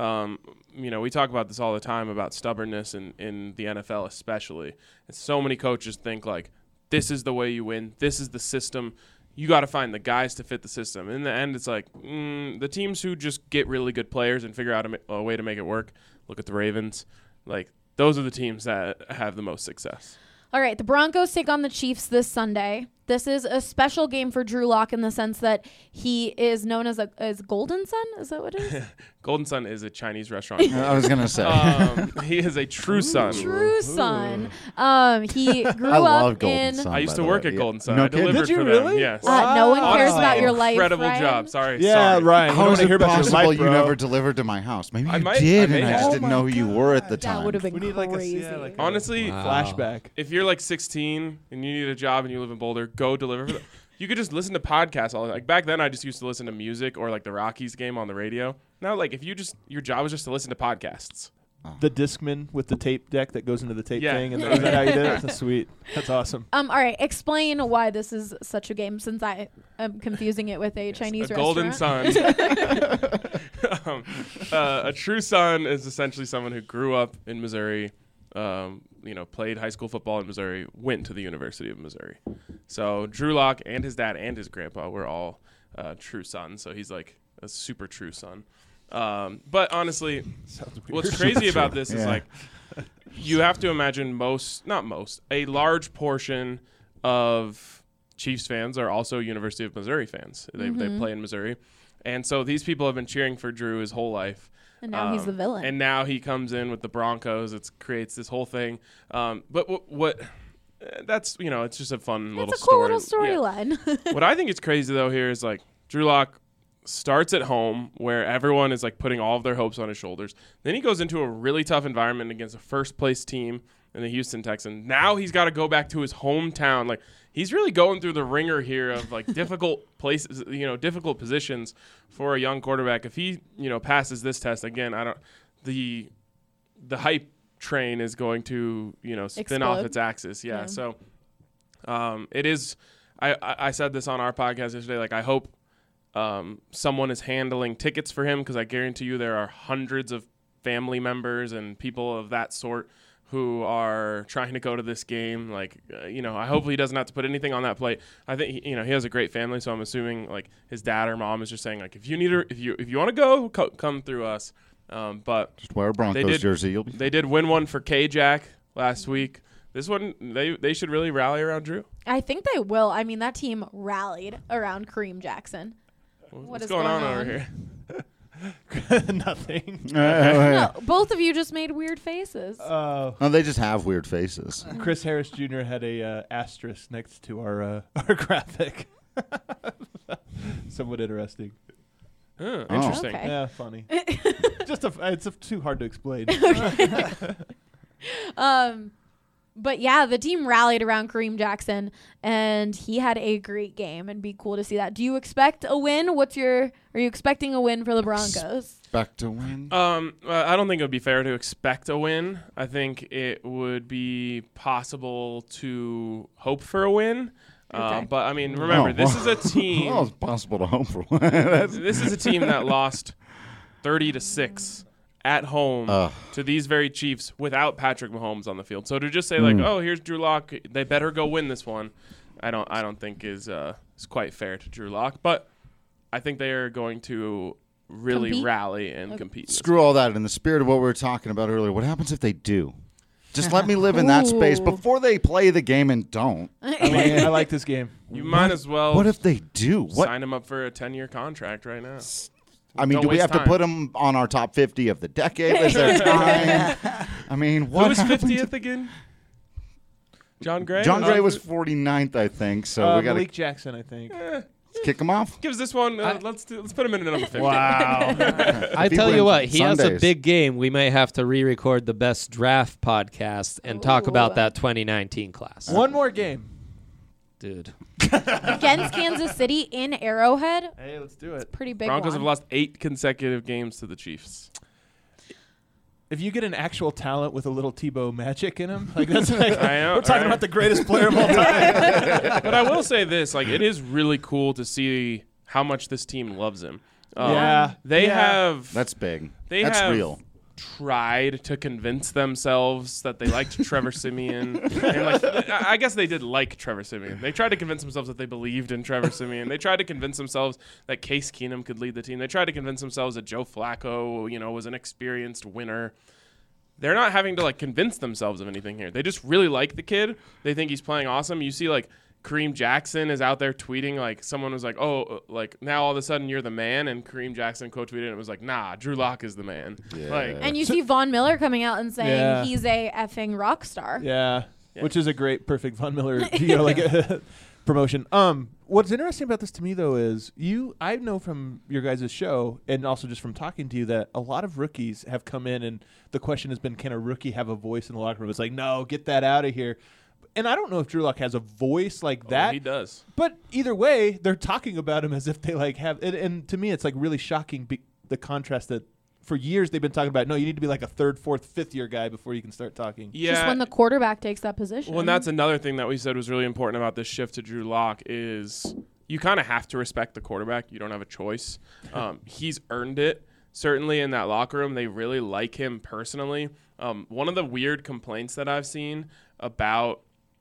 S3: We talk about this all the time about stubbornness in the NFL especially. And so many coaches think, like, this is the way you win. This is the system. You got to find the guys to fit the system. In the end, it's like the teams who just get really good players and figure out a way to make it work. Look at the Ravens. Like, those are the teams that have the most success.
S1: All right, the Broncos take on the Chiefs this Sunday. This is a special game for Drew Lock in the sense that he is known as Golden Son. Is that what it is?
S3: Golden Son is a Chinese restaurant.
S6: I was going to say.
S3: He is a true son.
S1: True son. He grew
S6: I love
S1: up
S6: Golden
S1: in.
S6: Son.
S3: I used
S6: by
S3: to
S6: the
S3: work
S6: way.
S3: at Golden Son.
S6: No
S3: I
S6: kidding.
S3: delivered
S2: Did you
S3: for
S2: really?
S3: them. Yes.
S1: No one cares
S3: Honestly,
S1: about your life.
S3: incredible
S1: Ryan.
S3: job. Sorry.
S2: Yeah,
S3: sorry.
S2: Ryan.
S6: How
S2: I
S6: is
S2: want to
S6: it
S2: hear about your
S6: possible
S2: life,
S6: you
S2: bro.
S6: never delivered to my house? Maybe
S3: I
S6: you
S3: might-
S6: did,
S3: I
S6: and
S3: may
S6: I
S3: have.
S6: just
S3: Oh
S6: didn't know who you were at the
S1: That
S6: time.
S1: would have been
S2: We need
S1: crazy.
S3: Honestly,
S2: flashback.
S3: if you're like 16 and you need a job and you live in Boulder, go deliver for them. You could just listen to podcasts all like back then. I just used to listen to music or like the Rockies game on the radio. Now, like if your job is just to listen to podcasts,
S2: the Discman with the tape deck that goes into the tape
S3: Yeah.
S2: thing. And is that how you did it? That's sweet. That's awesome.
S1: All right, explain why this is such a game, since I am confusing it with a Chinese
S3: a golden
S1: restaurant.
S3: son. A true son is essentially someone who grew up in Missouri, played high school football in Missouri, went to the University of Missouri. So Drew Lock and his dad and his grandpa were all true sons. So he's like a super true son. But honestly, what's crazy about this is like you have to imagine a large portion of Chiefs fans are also University of Missouri fans. They play in Missouri. And so these people have been cheering for Drew his whole life.
S1: And now he's the villain.
S3: And now he comes in with the Broncos. It creates this whole thing. But what that's, it's just a fun little story.
S1: It's a cool little storyline.
S3: What I think is crazy, though, here is like Drew Lock starts at home where everyone is like putting all of their hopes on his shoulders. Then he goes into a really tough environment against a first-place team in the Houston Texans. Now he's got to go back to his hometown. Like, he's really going through the ringer here of like difficult places, difficult positions for a young quarterback. If he, passes this test again, the hype train is going to, spin off its axis. Yeah. So, it is, I said this on our podcast yesterday, like I hope someone is handling tickets for him, because I guarantee you there are hundreds of family members and people of that sort who are trying to go to this game. Like, I hope he doesn't have to put anything on that plate. I think, he has a great family, so I'm assuming like his dad or mom is just saying like, if you want to go, come through us. But
S6: just wear a Broncos jersey.
S3: They did win one for K-Jack last week. This one, they should really rally around Drew.
S1: I think they will. I mean, that team rallied around Kareem Jackson.
S3: What's going on over here?
S2: Nothing.
S1: No, both of you just made weird faces.
S6: No, they just have weird faces.
S2: Chris Harris Jr. had a asterisk next to our graphic. Somewhat interesting.
S3: Interesting.
S1: Okay.
S2: Yeah, funny. It's too hard to explain.
S1: But yeah, the team rallied around Kareem Jackson, and he had a great game, and be cool to see that. Do you expect a win? Are you expecting a win for the Broncos?
S6: Expect a win?
S3: I don't think it would be fair to expect a win. I think it would be possible to hope for a win.
S1: Okay.
S3: But I mean, remember, this is a team.
S6: Well, it's possible to hope for one.
S3: This is a team that lost 30-6 at home to these very Chiefs without Patrick Mahomes on the field. So to just say like, oh, here's Drew Lock, they better go win this one, I don't think is quite fair to Drew Lock. But I think they are going to really rally and compete.
S6: Screw all that. In the spirit of what we were talking about earlier, what happens if they do? Just let me live in that space before they play the game and don't.
S2: I like this game.
S3: You might as well.
S6: What if they do?
S3: Sign him up for a 10-year contract right now.
S6: I mean, do we have to put him on our top 50 of the decade? Is there time? I mean, what
S3: Who was
S6: happened
S3: 50th again? John Gray?
S6: John Gray was 49th, I think. So we got
S2: Malik
S6: to
S2: Jackson, I think.
S6: kick him off.
S3: Gives this one. Let's put him in number 50.
S2: Wow.
S5: I tell you what, he has a
S6: Sundays.
S5: big game. We may have to re-record the best draft podcast and talk about that 2019 class.
S2: One more game.
S5: Dude.
S1: Against Kansas City in Arrowhead.
S2: Hey, let's do it.
S1: Pretty big
S3: Broncos
S1: one.
S3: have lost 8 consecutive games to the Chiefs.
S2: If you get an actual talent with a little Tebow magic in him, like that's like
S3: I know,
S2: we're talking
S3: right?
S2: about the greatest player of all time.
S3: But I will say this, like, it is really cool to see how much this team loves him. They have
S6: That's big.
S3: That's
S6: real.
S3: tried to convince themselves that they liked Trevor Siemian. And like, I guess they did like Trevor Siemian. They tried to convince themselves that they believed in Trevor Siemian. They tried to convince themselves that Case Keenum could lead the team. They tried to convince themselves that Joe Flacco, was an experienced winner. They're not having to like convince themselves of anything here. They just really like the kid. They think he's playing awesome. You see like Kareem Jackson is out there tweeting, like someone was like, oh, like now all of a sudden you're the man, and Kareem Jackson quote tweeted and it was like, nah, Drew Lock is the man.
S6: Yeah.
S3: Like,
S1: And you see Von Miller coming out and saying
S2: Yeah.
S1: he's a effing rock star.
S2: Yeah,
S3: Yeah.
S2: which is a great, perfect Von Miller, promotion. What's interesting about this to me though is I know from your guys' show and also just from talking to you that a lot of rookies have come in and the question has been, can a rookie have a voice in the locker room? It's like, no, get that out of here. And I don't know if Drew Lock has a voice like that.
S3: he does.
S2: But either way, they're talking about him as if they like have. And to me, it's like really shocking the contrast that for years they've been talking about, no, you need to be like a third, fourth, fifth year guy before you can start talking.
S3: Yeah.
S1: Just when the quarterback takes that position.
S3: Well, and that's another thing that we said was really important about this shift to Drew Lock is you kind of have to respect the quarterback. You don't have a choice. He's earned it. Certainly in that locker room, they really like him personally. One of the weird complaints that I've seen about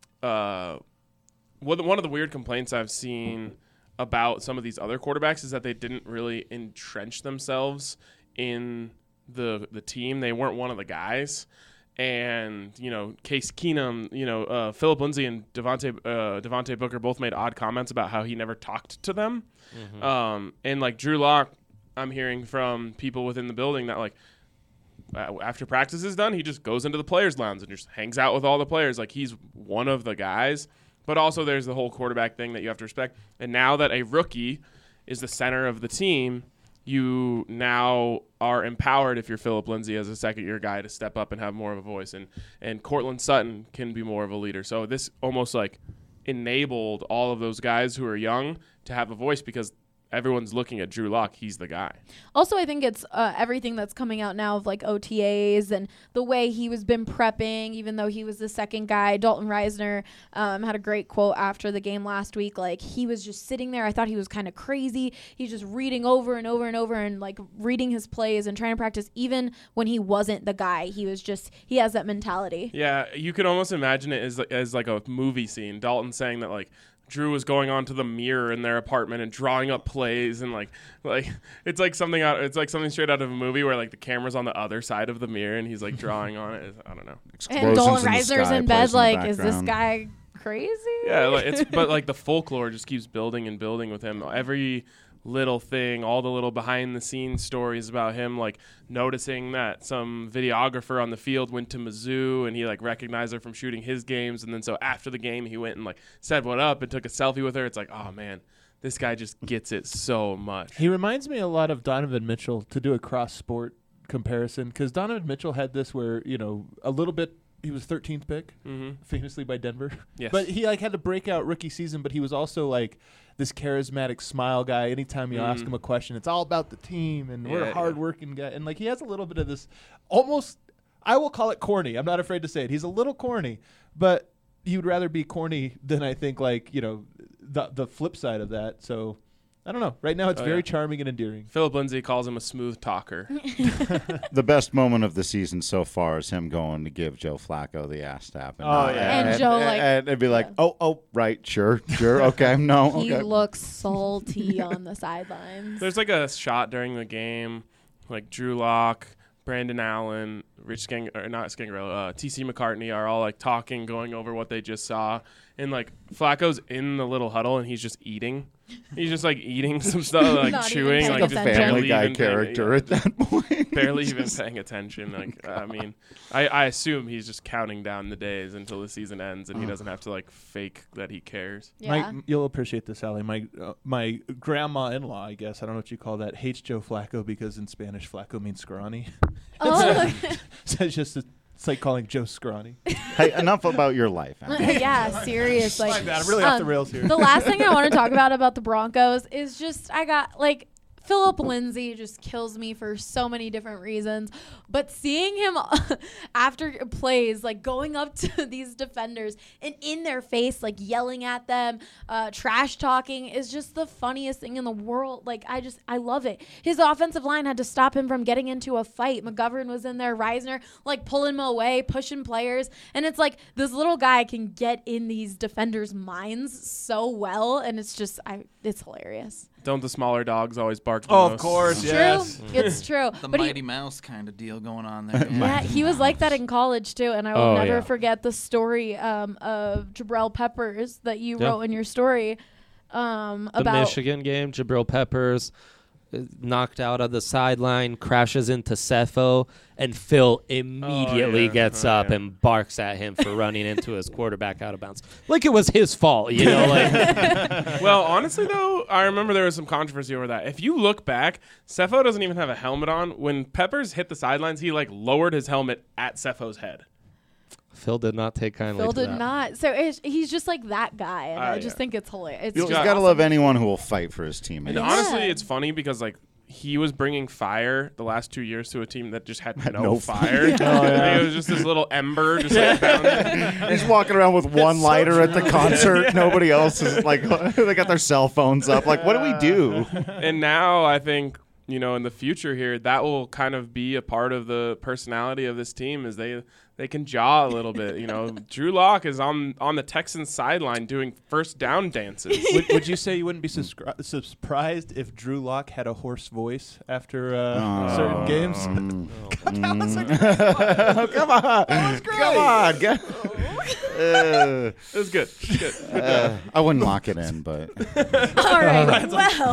S3: one of the weird complaints I've seen about some of these other quarterbacks is that they didn't really entrench themselves in the team. They weren't one of the guys. And, Case Keenum, Philip Lindsay and Devontae Booker both made odd comments about how he never talked to them. Mm-hmm. And, like, Drew Lock, I'm hearing from people within the building that, like, after practice is done, he just goes into the players' lounge and just hangs out with all the players. Like, he's one of the guys. But also there's the whole quarterback thing that you have to respect. And now that a rookie is the center of the team, you now are empowered, if you're Philip Lindsay, as a second-year guy, to step up and have more of a voice. And Cortland Sutton can be more of a leader. So this almost, like, enabled all of those guys who are young to have a voice because everyone's looking at Drew Lock. He's the guy.
S1: Also, I think it's everything that's coming out now of like OTAs and the way he was been prepping, even though he was the second guy. Dalton Reisner had a great quote after the game last week. Like, he was just sitting there. I thought he was kind of crazy. He's just reading over and over and over and like reading his plays and trying to practice even when he wasn't the guy. He has that mentality.
S3: Yeah, you could almost imagine it as like a movie scene. Dalton saying that, like, Drew was going onto the mirror in their apartment and drawing up plays and like it's like something straight out of a movie where like the camera's on the other side of the mirror and he's like drawing on it. I don't know.
S1: And Dalton Reisner's in bed like, is this guy crazy?
S3: Yeah, like, but like the folklore just keeps building and building with him. Every little thing, all the little behind the scenes stories about him, like noticing that some videographer on the field went to Mizzou and he like recognized her from shooting his games, and then so after the game he went and like said what up and took a selfie with her. It's like, oh man, this guy just gets it so much.
S2: He reminds me a lot of Donovan Mitchell, to do a cross sport comparison, because Donovan Mitchell had this where, a little bit, he was 13th pick, famously by Denver.
S3: Yes.
S2: But he like had to break out rookie season, but he was also like this charismatic smile guy. Anytime you ask him a question, it's all about the team and we're a hard-working guy. And like he has a little bit of this almost, I will call it corny. I'm not afraid to say it. He's a little corny, but he would rather be corny than I think like, the flip side of that. So I don't know. Right now, it's very charming and endearing.
S3: Philip Lindsay calls him a smooth talker.
S6: The best moment of the season so far is him going to give Joe Flacco the ass tap.
S1: And Joe, like,
S6: and it'd be like, oh, right, sure, okay, no,
S1: he
S6: okay.
S1: looks salty on the sidelines.
S3: There's like a shot during the game, like Drew Lock, Brandon Allen, TC McCartney are all like talking, going over what they just saw. And like Flacco's in the little huddle and he's just eating. He's just like eating some stuff, like
S1: Not
S3: chewing,
S1: even
S3: like
S1: paying
S3: just
S1: attention.
S6: Family Guy character at that point.
S3: barely even paying attention. Like, I mean, I assume he's just counting down the days until the season ends and he doesn't have to like fake that he cares.
S1: Yeah.
S2: You'll appreciate this, Allie. My grandma-in-law, I guess, I don't know what you call that, hates Joe Flacco because in Spanish, Flacco means scrawny.
S1: Oh,
S2: So it's like calling Joe scrawny.
S6: Hey, enough about your life. Andy.
S1: yeah, seriously.
S2: My bad, I'm really off the rails here.
S1: The last thing I want to talk about the Broncos is just Philip Lindsay just kills me for so many different reasons. But seeing him after plays, like going up to these defenders and in their face, like yelling at them, trash talking is just the funniest thing in the world. Like, I love it. His offensive line had to stop him from getting into a fight. McGovern was in there, Reisner, like pulling him away, pushing players. And it's like this little guy can get in these defenders' minds so well. And it's just, it's hilarious.
S3: Don't the smaller dogs always bark the
S2: Oh,
S3: most?
S2: of course,
S1: It's
S2: yes.
S1: true. It's true.
S4: The
S1: But
S4: Mighty Mouse kind of deal going on there.
S1: yeah, he was like that in college too, and I will
S5: Oh,
S1: never
S5: yeah.
S1: forget the story of Jabril Peppers that you
S5: Yeah.
S1: wrote in your story
S5: The
S1: about
S5: Michigan game, Jabril Peppers knocked out of the sideline, crashes into Cepho, and Phil immediately gets up and barks at him for running into his quarterback out of bounds. Like it was his fault, like
S3: Well, honestly, though, I remember there was some controversy over that. If you look back, Cepho doesn't even have a helmet on. When Peppers hit the sidelines, he like lowered his helmet at Cepho's head.
S5: Phil did not take kindly
S1: Phil
S5: to
S1: did
S5: that.
S1: not. So he's just like that guy, and I just
S3: yeah.
S1: think it's hilarious. It's
S6: You
S1: just
S6: got to
S1: awesome.
S6: love anyone who will fight for his teammates.
S3: And honestly, it's funny because like he was bringing fire the last 2 years to a team that just had no
S6: no
S3: fire. It was just this little ember just like down there.
S6: He's walking around with one lighter at the concert. Nobody else is like, they got their cell phones up. Like, what do we do?
S3: And now I think, in the future here, that will kind of be a part of the personality of this team is they can jaw a little bit. Drew Lock is on the Texans sideline doing first down dances.
S2: Would you say you wouldn't be surprised if Drew Lock had a hoarse voice after certain games? That was a great
S6: Come on.
S2: That was great.
S6: Come on.
S3: It was good.
S6: I wouldn't lock it in, but
S1: All right.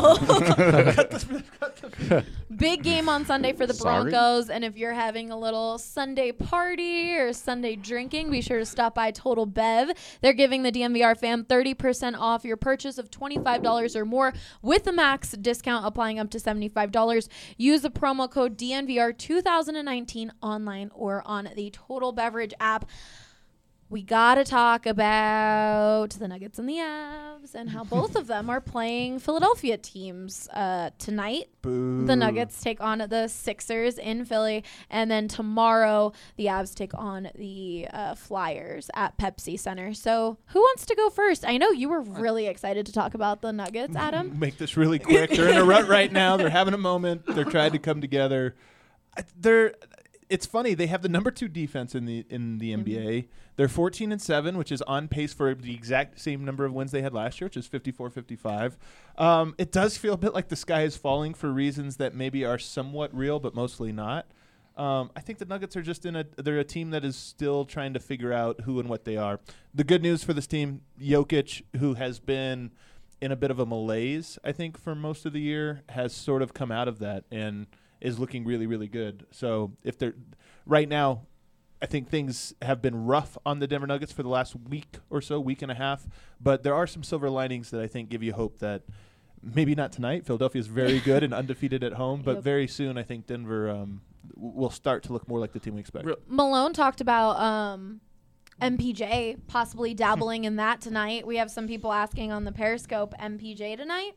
S1: Well, big game on Sunday for the
S6: Sorry?
S1: Broncos. And if you're having a little Sunday party or Sunday drinking, be sure to stop by Total Bev. They're giving the DMVR fam 30% off your purchase of $25 or more with a max discount applying up to $75. Use the promo code DNVR 2019 online or on the Total Beverage app. We got to talk about the Nuggets and the Avs and how both of them are playing Philadelphia teams tonight.
S2: Boo.
S1: The Nuggets take on the Sixers in Philly. And then tomorrow, the Avs take on the Flyers at Pepsi Center. So who wants to go first? I know you were really excited to talk about the Nuggets, Adam.
S2: Make this really quick. They're in a rut right now. They're having a moment. They're trying to come together. It's funny. They have the number 2 defense in the NBA. They're 14-7, which is on pace for the exact same number of wins they had last year, which is 54-55. It does feel a bit like the sky is falling for reasons that maybe are somewhat real, but mostly not. I think the Nuggets are just they're a team that is still trying to figure out who and what they are. The good news for this team, Jokic, who has been in a bit of a malaise, I think, for most of the year, has sort of come out of that and is looking really, really good. So if they're right now, I think things have been rough on the Denver Nuggets for the last week or so, week and a half. But there are some silver linings that I think give you hope that maybe not tonight. Philadelphia is very good and undefeated at home. But very soon I think Denver will start to look more like the team we expect.
S1: Malone talked about MPJ possibly dabbling in that tonight. We have some people asking on the Periscope, MPJ tonight?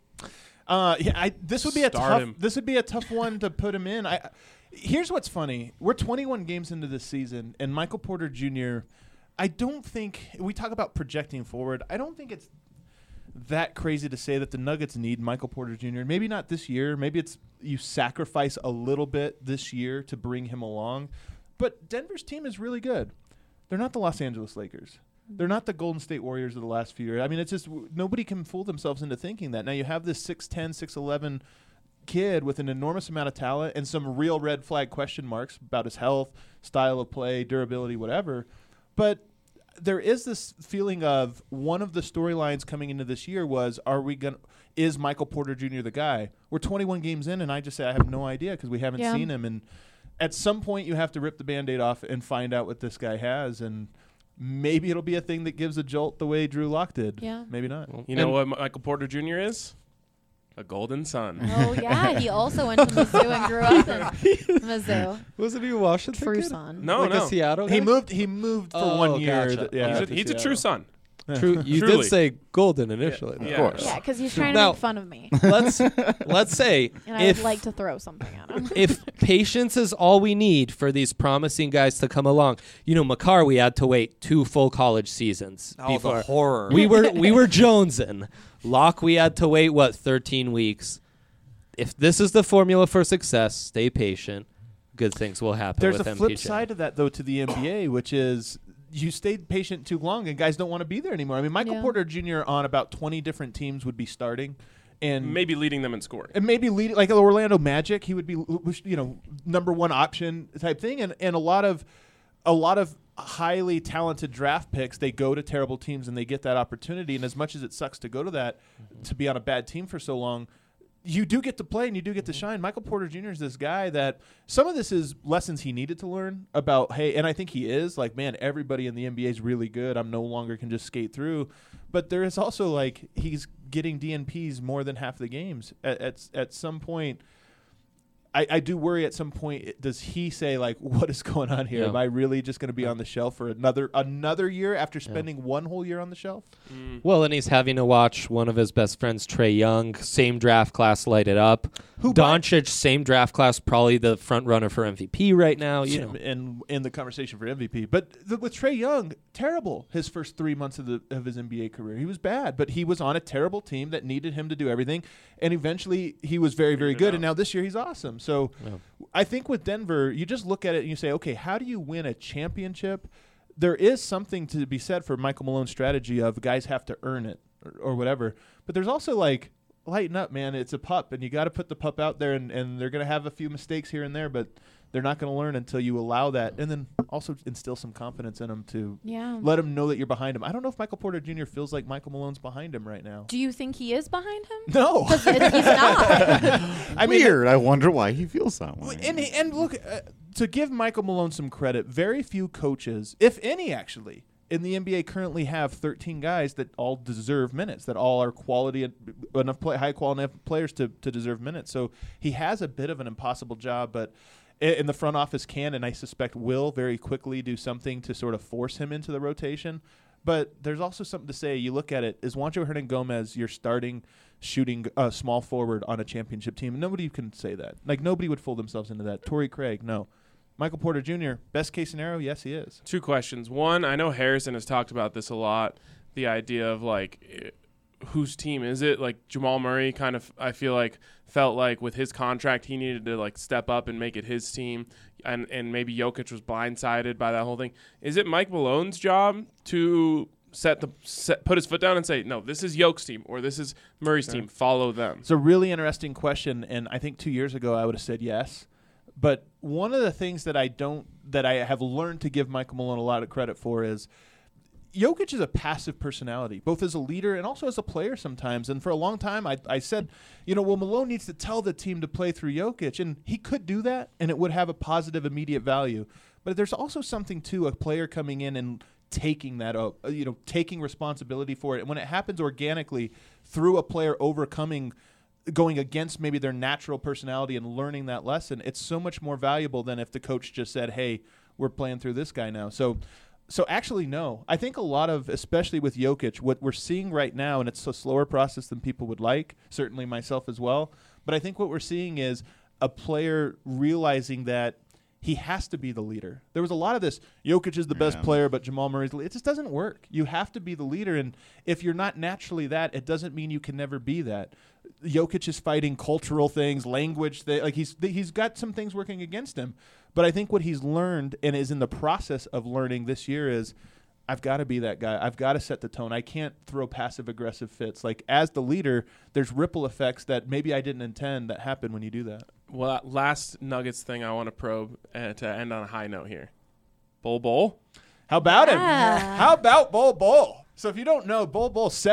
S2: This would be a tough one to put him in. Here's what's funny. We're 21 games into this season, and Michael Porter Jr., I don't think – we talk about projecting forward. I don't think it's that crazy to say that the Nuggets need Michael Porter Jr. Maybe not this year. Maybe it's you sacrifice a little bit this year to bring him along. But Denver's team is really good. They're not the Los Angeles Lakers. They're not the Golden State Warriors of the last few years. I mean, it's just nobody can fool themselves into thinking that. Now you have this 6'10", 6'11", kid with an enormous amount of talent and some real red flag question marks about his health, style of play, durability, whatever. But there is this feeling of one of the storylines coming into this year was, is Michael Porter Jr. the guy? We're 21 games in, and I just say I have no idea because we haven't seen him. And at some point you have to rip the Band-Aid off and find out what this guy has. And maybe it'll be a thing that gives a jolt the way Drew Lock did.
S1: Yeah.
S2: Maybe not.
S3: You know what Michael Porter Jr. is? A golden son.
S1: Oh, yeah. He also went to Mizzou and grew up in Mizzou.
S5: Wasn't he a Washington
S1: True
S5: kid?
S1: son.
S3: No,
S5: A Seattle guy?
S2: He moved for 1 year.
S5: Gotcha.
S3: He's a true son.
S5: True. You
S3: Truly.
S5: did say golden initially.
S3: Yeah.
S6: of course.
S1: Yeah, because he's trying to
S5: Now-
S1: make fun of me.
S5: Let's say
S1: And I
S5: if
S1: would like to throw something at him.
S5: if patience is all we need for these promising guys to come along, Makar, we had to wait 2 full college seasons
S4: Oh,
S5: before.
S4: the horror.
S5: We were jonesing. Locke, we had to wait 13 weeks. If this is the formula for success, stay patient. Good things will happen.
S2: There's
S5: with
S2: a flip
S5: MPJ.
S2: side to that, though, to the NBA, which is you stayed patient too long and guys don't want to be there anymore. I mean, Michael Porter Jr. on about 20 different teams would be starting. And
S3: Maybe leading them in scoring.
S2: and maybe leading like Orlando Magic, he would be number 1 option type thing, and a lot of highly talented draft picks, they go to terrible teams and they get that opportunity. And as much as it sucks to go to that, to be on a bad team for so long, you do get to play and you do get to shine. Michael Porter Jr. is this guy that some of this is lessons he needed to learn about, hey, and I think he is like, man, everybody in the NBA is really good. I'm no longer can just skate through. But there is also like he's getting DNPs more than half the games. At some point, I do worry at some point, does he say, like, what is going on here?
S5: Yeah.
S2: Am I really just going to be on the shelf for another year after spending one whole year on the shelf?
S5: Well, and he's having to watch one of his best friends, Trey Young, same draft class, light it up. Doncic, same draft class, probably the front runner for MVP right now. You know.
S2: And in the conversation for MVP. But with Trey Young, terrible his first 3 months of his NBA career. He was bad, but he was on a terrible team that needed him to do everything. And eventually he was very, very good. And now this year he's awesome. So I think with Denver, you just look at it and you say, okay, how do you win a championship? There is something to be said for Michael Malone's strategy of guys have to earn it or whatever. But there's also like, lighten up, man. It's a pup, and you got to put the pup out there, and they're going to have a few mistakes here and there, but they're not going to learn until you allow that. And then also instill some confidence in them to let them know that you're behind him. I don't know if Michael Porter Jr. feels like Michael Malone's behind him right now.
S1: Do you think he is behind him?
S2: No.
S1: He's not.
S6: I mean, weird. I wonder why he feels that way.
S2: And look, to give Michael Malone some credit, very few coaches, if any actually, in the NBA currently have 13 guys that all deserve minutes, that all are quality enough high quality enough players to deserve minutes. So he has a bit of an impossible job, but in the front office can, and I suspect will very quickly do something to sort of force him into the rotation. But there's also something to say. You look at it, is Juancho Hernangomez your starting shooting small forward on a championship team? Nobody can say that. Like, nobody would fool themselves into that. Torrey Craig, no. Michael Porter Jr., best case scenario, yes, he is.
S3: 2 questions. One, I know Harrison has talked about this a lot, the idea of, like, whose team is it? Like, Jamal Murray kind of, I feel like, felt like with his contract he needed to, like, step up and make it his team, and maybe Jokic was blindsided by that whole thing. Is it Mike Malone's job to put his foot down and say, no, this is Yoke's team or this is Murray's team, follow them?
S2: It's a really interesting question, and I think 2 years ago I would have said yes. But one of the things that I have learned to give Michael Malone a lot of credit for is Jokic is a passive personality, both as a leader and also as a player sometimes. And for a long time, I said, Malone needs to tell the team to play through Jokic. And he could do that, and it would have a positive immediate value. But there's also something to a player coming in and taking that up, taking responsibility for it. And when it happens organically through a player going against maybe their natural personality and learning that lesson, it's so much more valuable than if the coach just said, hey, we're playing through this guy now. So actually, no. I think a lot of, especially with Jokic, what we're seeing right now, and it's a slower process than people would like, certainly myself as well, but I think what we're seeing is a player realizing that he has to be the leader. There was a lot of this, Jokic is the best player, but Jamal Murray's the leader. It just doesn't work. You have to be the leader, and if you're not naturally that, it doesn't mean you can never be that. Jokic is fighting cultural things, language. He's got some things working against him. But I think what he's learned and is in the process of learning this year is, I've got to be that guy. I've got to set the tone. I can't throw passive-aggressive fits. Like, as the leader, there's ripple effects that maybe I didn't intend that happen when you do that.
S3: Well, that last Nuggets thing I want to probe to end on a high note here. Bol?
S2: How about him? How about Bol? So if you don't know, Bol,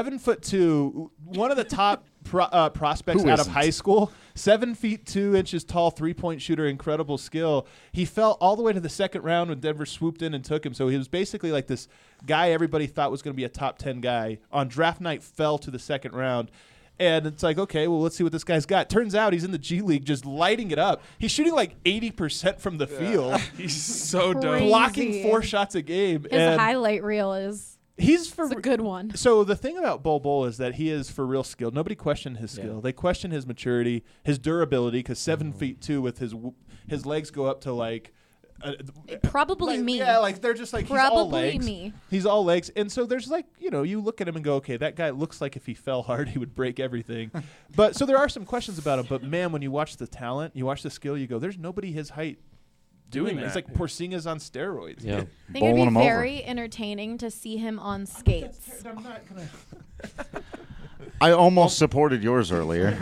S2: 7'2", one of the top prospects out of high school, 7 feet 2 inches tall, 3-point shooter, incredible skill. He fell all the way to the second round when Denver swooped in and took him. So he was basically like this guy everybody thought was going to be a top 10 guy. On draft night, fell to the second round. And it's like, okay, well, let's see what this guy's got. Turns out he's in the G League just lighting it up. He's shooting like 80% from the field.
S3: He's so dope.
S2: Blocking 4 shots a game.
S1: His highlight reel is...
S2: It's
S1: a good one.
S2: So the thing about Bol is that he is for real skilled. Nobody questioned his skill. Yeah. They questioned his maturity, his durability, because 7 feet 2 with his legs go up to like...
S1: probably me.
S2: Yeah, like they're just like,
S1: probably
S2: he's all legs.
S1: Me.
S2: He's all legs. And so there's like, you look at him and go, okay, that guy looks like if he fell hard, he would break everything. But so there are some questions about him. But man, when you watch the talent, you watch the skill, you go, there's nobody his height doing that. It's like Porzingis on steroids.
S5: Yeah.
S1: I think it'd be very entertaining to see him on skates.
S2: I'm not going to...
S6: I almost supported yours earlier.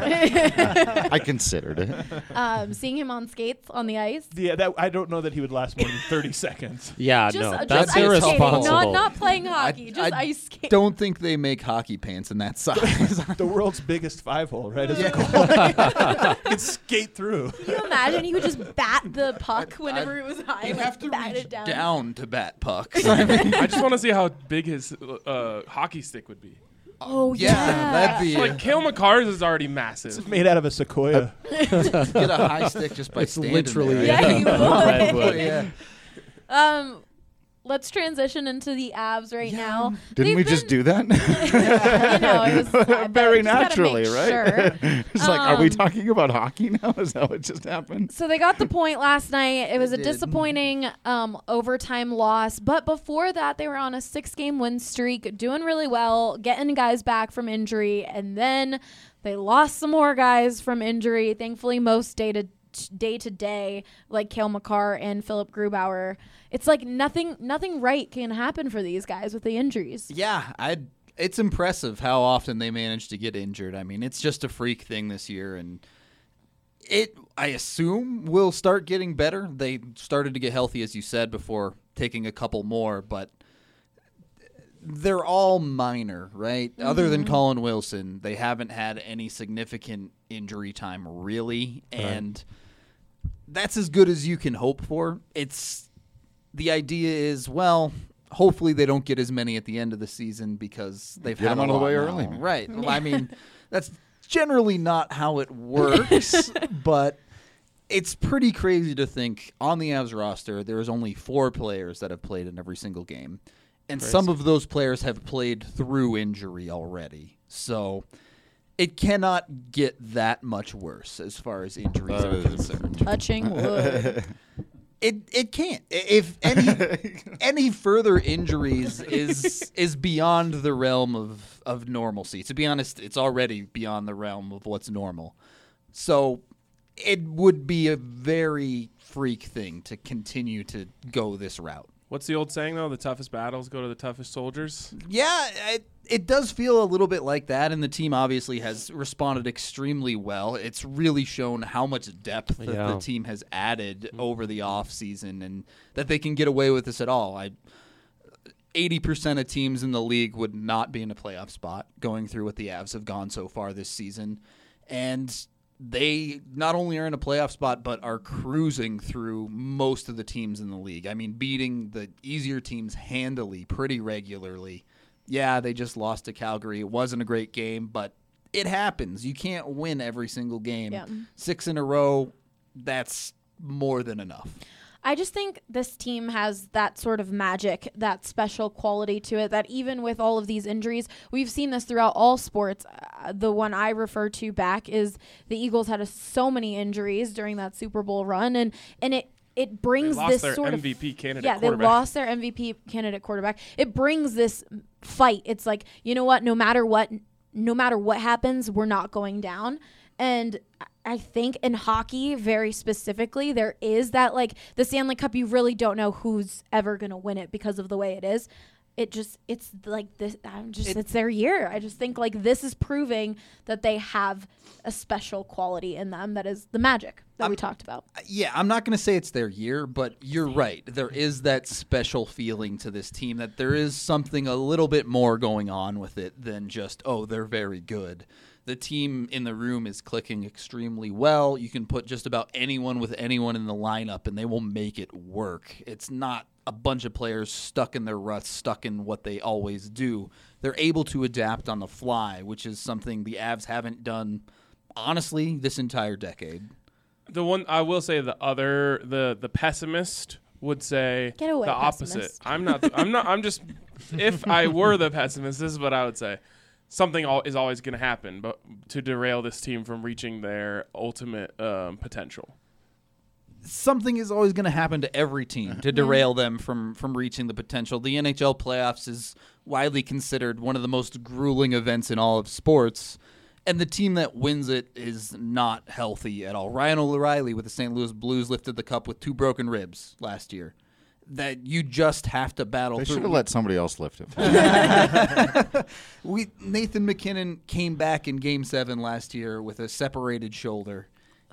S6: I considered it.
S1: Seeing him on skates on the ice.
S2: Yeah, I don't know that he would last more than 30 seconds.
S5: Yeah,
S1: just
S5: that's
S1: ice
S5: irresponsible.
S1: Skating, not playing hockey, just ice skating.
S4: Don't think they make hockey pants in that size.
S2: The world's biggest 5-hole, right? As a goal. You can skate through.
S1: Can you imagine he would just bat the puck whenever it was high?
S4: You'd have to
S1: bat
S4: reach
S1: it
S4: down to bat pucks.
S3: I just want to see how big his hockey stick would be.
S1: Oh,
S4: Yeah,
S1: yeah.
S4: that'd be
S3: Like Cale McCarr's is already massive.
S2: It's made out of a sequoia.
S4: get a high stick just by
S5: It's
S4: standing
S5: literally
S4: there.
S1: Yeah, you would.
S5: Redwood.
S4: Yeah.
S1: Let's transition into the Avs right now.
S6: Didn't we
S1: They've
S6: just
S1: been-
S6: do that?
S1: You know, it was
S6: Very
S1: just gotta
S6: naturally,
S1: make
S6: right?
S1: sure.
S6: It's like, are we
S1: Um,
S6: talking about hockey now? Is that what just happened?
S1: So they got the point last night. It was a
S4: did.
S1: disappointing overtime loss. But before that, they were on a 6-game win streak, doing really well, getting guys back from injury. And then they lost some more guys from injury. Thankfully, most day to day, like Cale Makar and Philip Grubauer. It's like nothing right can happen for these guys with the injuries.
S4: Yeah, it's impressive how often they manage to get injured. I mean, it's just a freak thing this year, and I assume, will start getting better. They started to get healthy, as you said, before taking a couple more, but they're all minor, right? Other than Colin Wilson, they haven't had any significant injury time, really, and that's as good as you can hope for. The idea is, well, hopefully they don't get as many at the end of the season because they've
S6: Get
S4: had
S6: them
S4: a
S6: out of the
S4: lot
S6: way
S4: now.
S6: early.
S4: Right. Well, I mean, that's generally not how it works, but it's pretty crazy to think on the Avs roster there is only 4 players that have played in every single game, and some of those players have played through injury already. So it cannot get that much worse as far as injuries are concerned.
S1: Touching wood.
S4: It can't. If any further injuries is beyond the realm of normalcy. To be honest, it's already beyond the realm of what's normal. So it would be a very freak thing to continue to go this route.
S3: What's the old saying, though? The toughest battles go to the toughest soldiers.
S4: Yeah, it does feel a little bit like that, and the team obviously has responded extremely well. It's really shown how much depth that the team has added over the offseason, and that they can get away with this at all. 80% of teams in the league would not be in a playoff spot going through what the Avs have gone so far this season, and they not only are in a playoff spot, but are cruising through most of the teams in the league. I mean, beating the easier teams handily pretty regularly. Yeah, they just lost to Calgary. It wasn't a great game, but it happens. You can't win every single game.
S1: Yeah.
S4: 6 in a row, that's more than enough.
S1: I just think this team has that sort of magic, that special quality to it, that even with all of these injuries, we've seen this throughout all sports. The one I refer to back is the Eagles had so many injuries during that Super Bowl run, and it brings
S3: They lost
S1: this
S3: their
S1: sort of
S3: MVP candidate
S1: yeah, they
S3: quarterback.
S1: lost their MVP candidate quarterback. It brings this fight. It's like, you know what, no matter what happens, we're not going down. And I think in hockey, very specifically, there is that, like, the Stanley Cup, you really don't know who's ever going to win it because of the way it is. It's like this. It's their year. I just think, like, this is proving that they have a special quality in them that is the magic that we talked about.
S4: Yeah, I'm not going to say it's their year, but you're right. There is that special feeling to this team, that there is something a little bit more going on with it than just, oh, they're very good. The team in the room is clicking extremely well. You can put just about anyone with anyone in the lineup, and they will make it work. It's not a bunch of players stuck in their ruts, stuck in what they always do. They're able to adapt on the fly, which is something the Avs haven't done, honestly, this entire decade.
S3: The one I will say, the pessimist would say
S1: Get away,
S3: the opposite.
S1: pessimist.
S3: I'm just if I were the pessimist, this is what I would say. Something is always going to happen, but to derail this team from reaching their ultimate potential.
S4: Something is always going to happen to every team to derail them from reaching the potential. The NHL playoffs is widely considered one of the most grueling events in all of sports, and the team that wins it is not healthy at all. Ryan O'Reilly with the St. Louis Blues lifted the cup with 2 broken ribs last year. That you just have to battle
S6: They
S4: through.
S6: should have let somebody else lift it.
S4: Nathan McKinnon came back in Game 7 last year with a separated shoulder.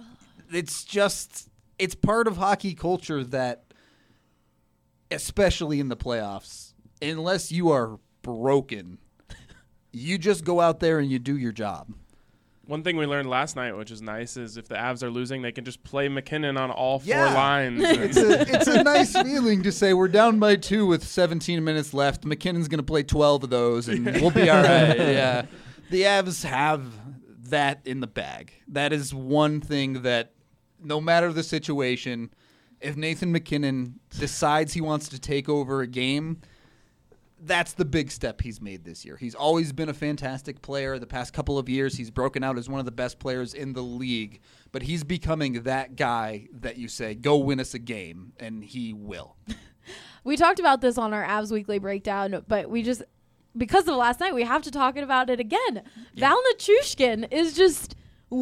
S4: It's part of hockey culture that, especially in the playoffs, unless you are broken, you just go out there and you do your job.
S3: One thing we learned last night, which is nice, is if the Avs are losing, they can just play McKinnon on all 4 lines.
S4: It's a nice feeling to say we're down by 2 with 17 minutes left. McKinnon's going to play 12 of those, and we'll be all right. Yeah, the Avs have that in the bag. That is one thing that, no matter the situation, if Nathan McKinnon decides he wants to take over a game, that's the big step he's made this year. He's always been a fantastic player. The past couple of years, he's broken out as one of the best players in the league. But he's becoming that guy that you say, go win us a game, and he will.
S1: We talked about this on our Avs Weekly Breakdown, but we just, because of last night, we have to talk about it again. Yeah. Val Nichushkin is just...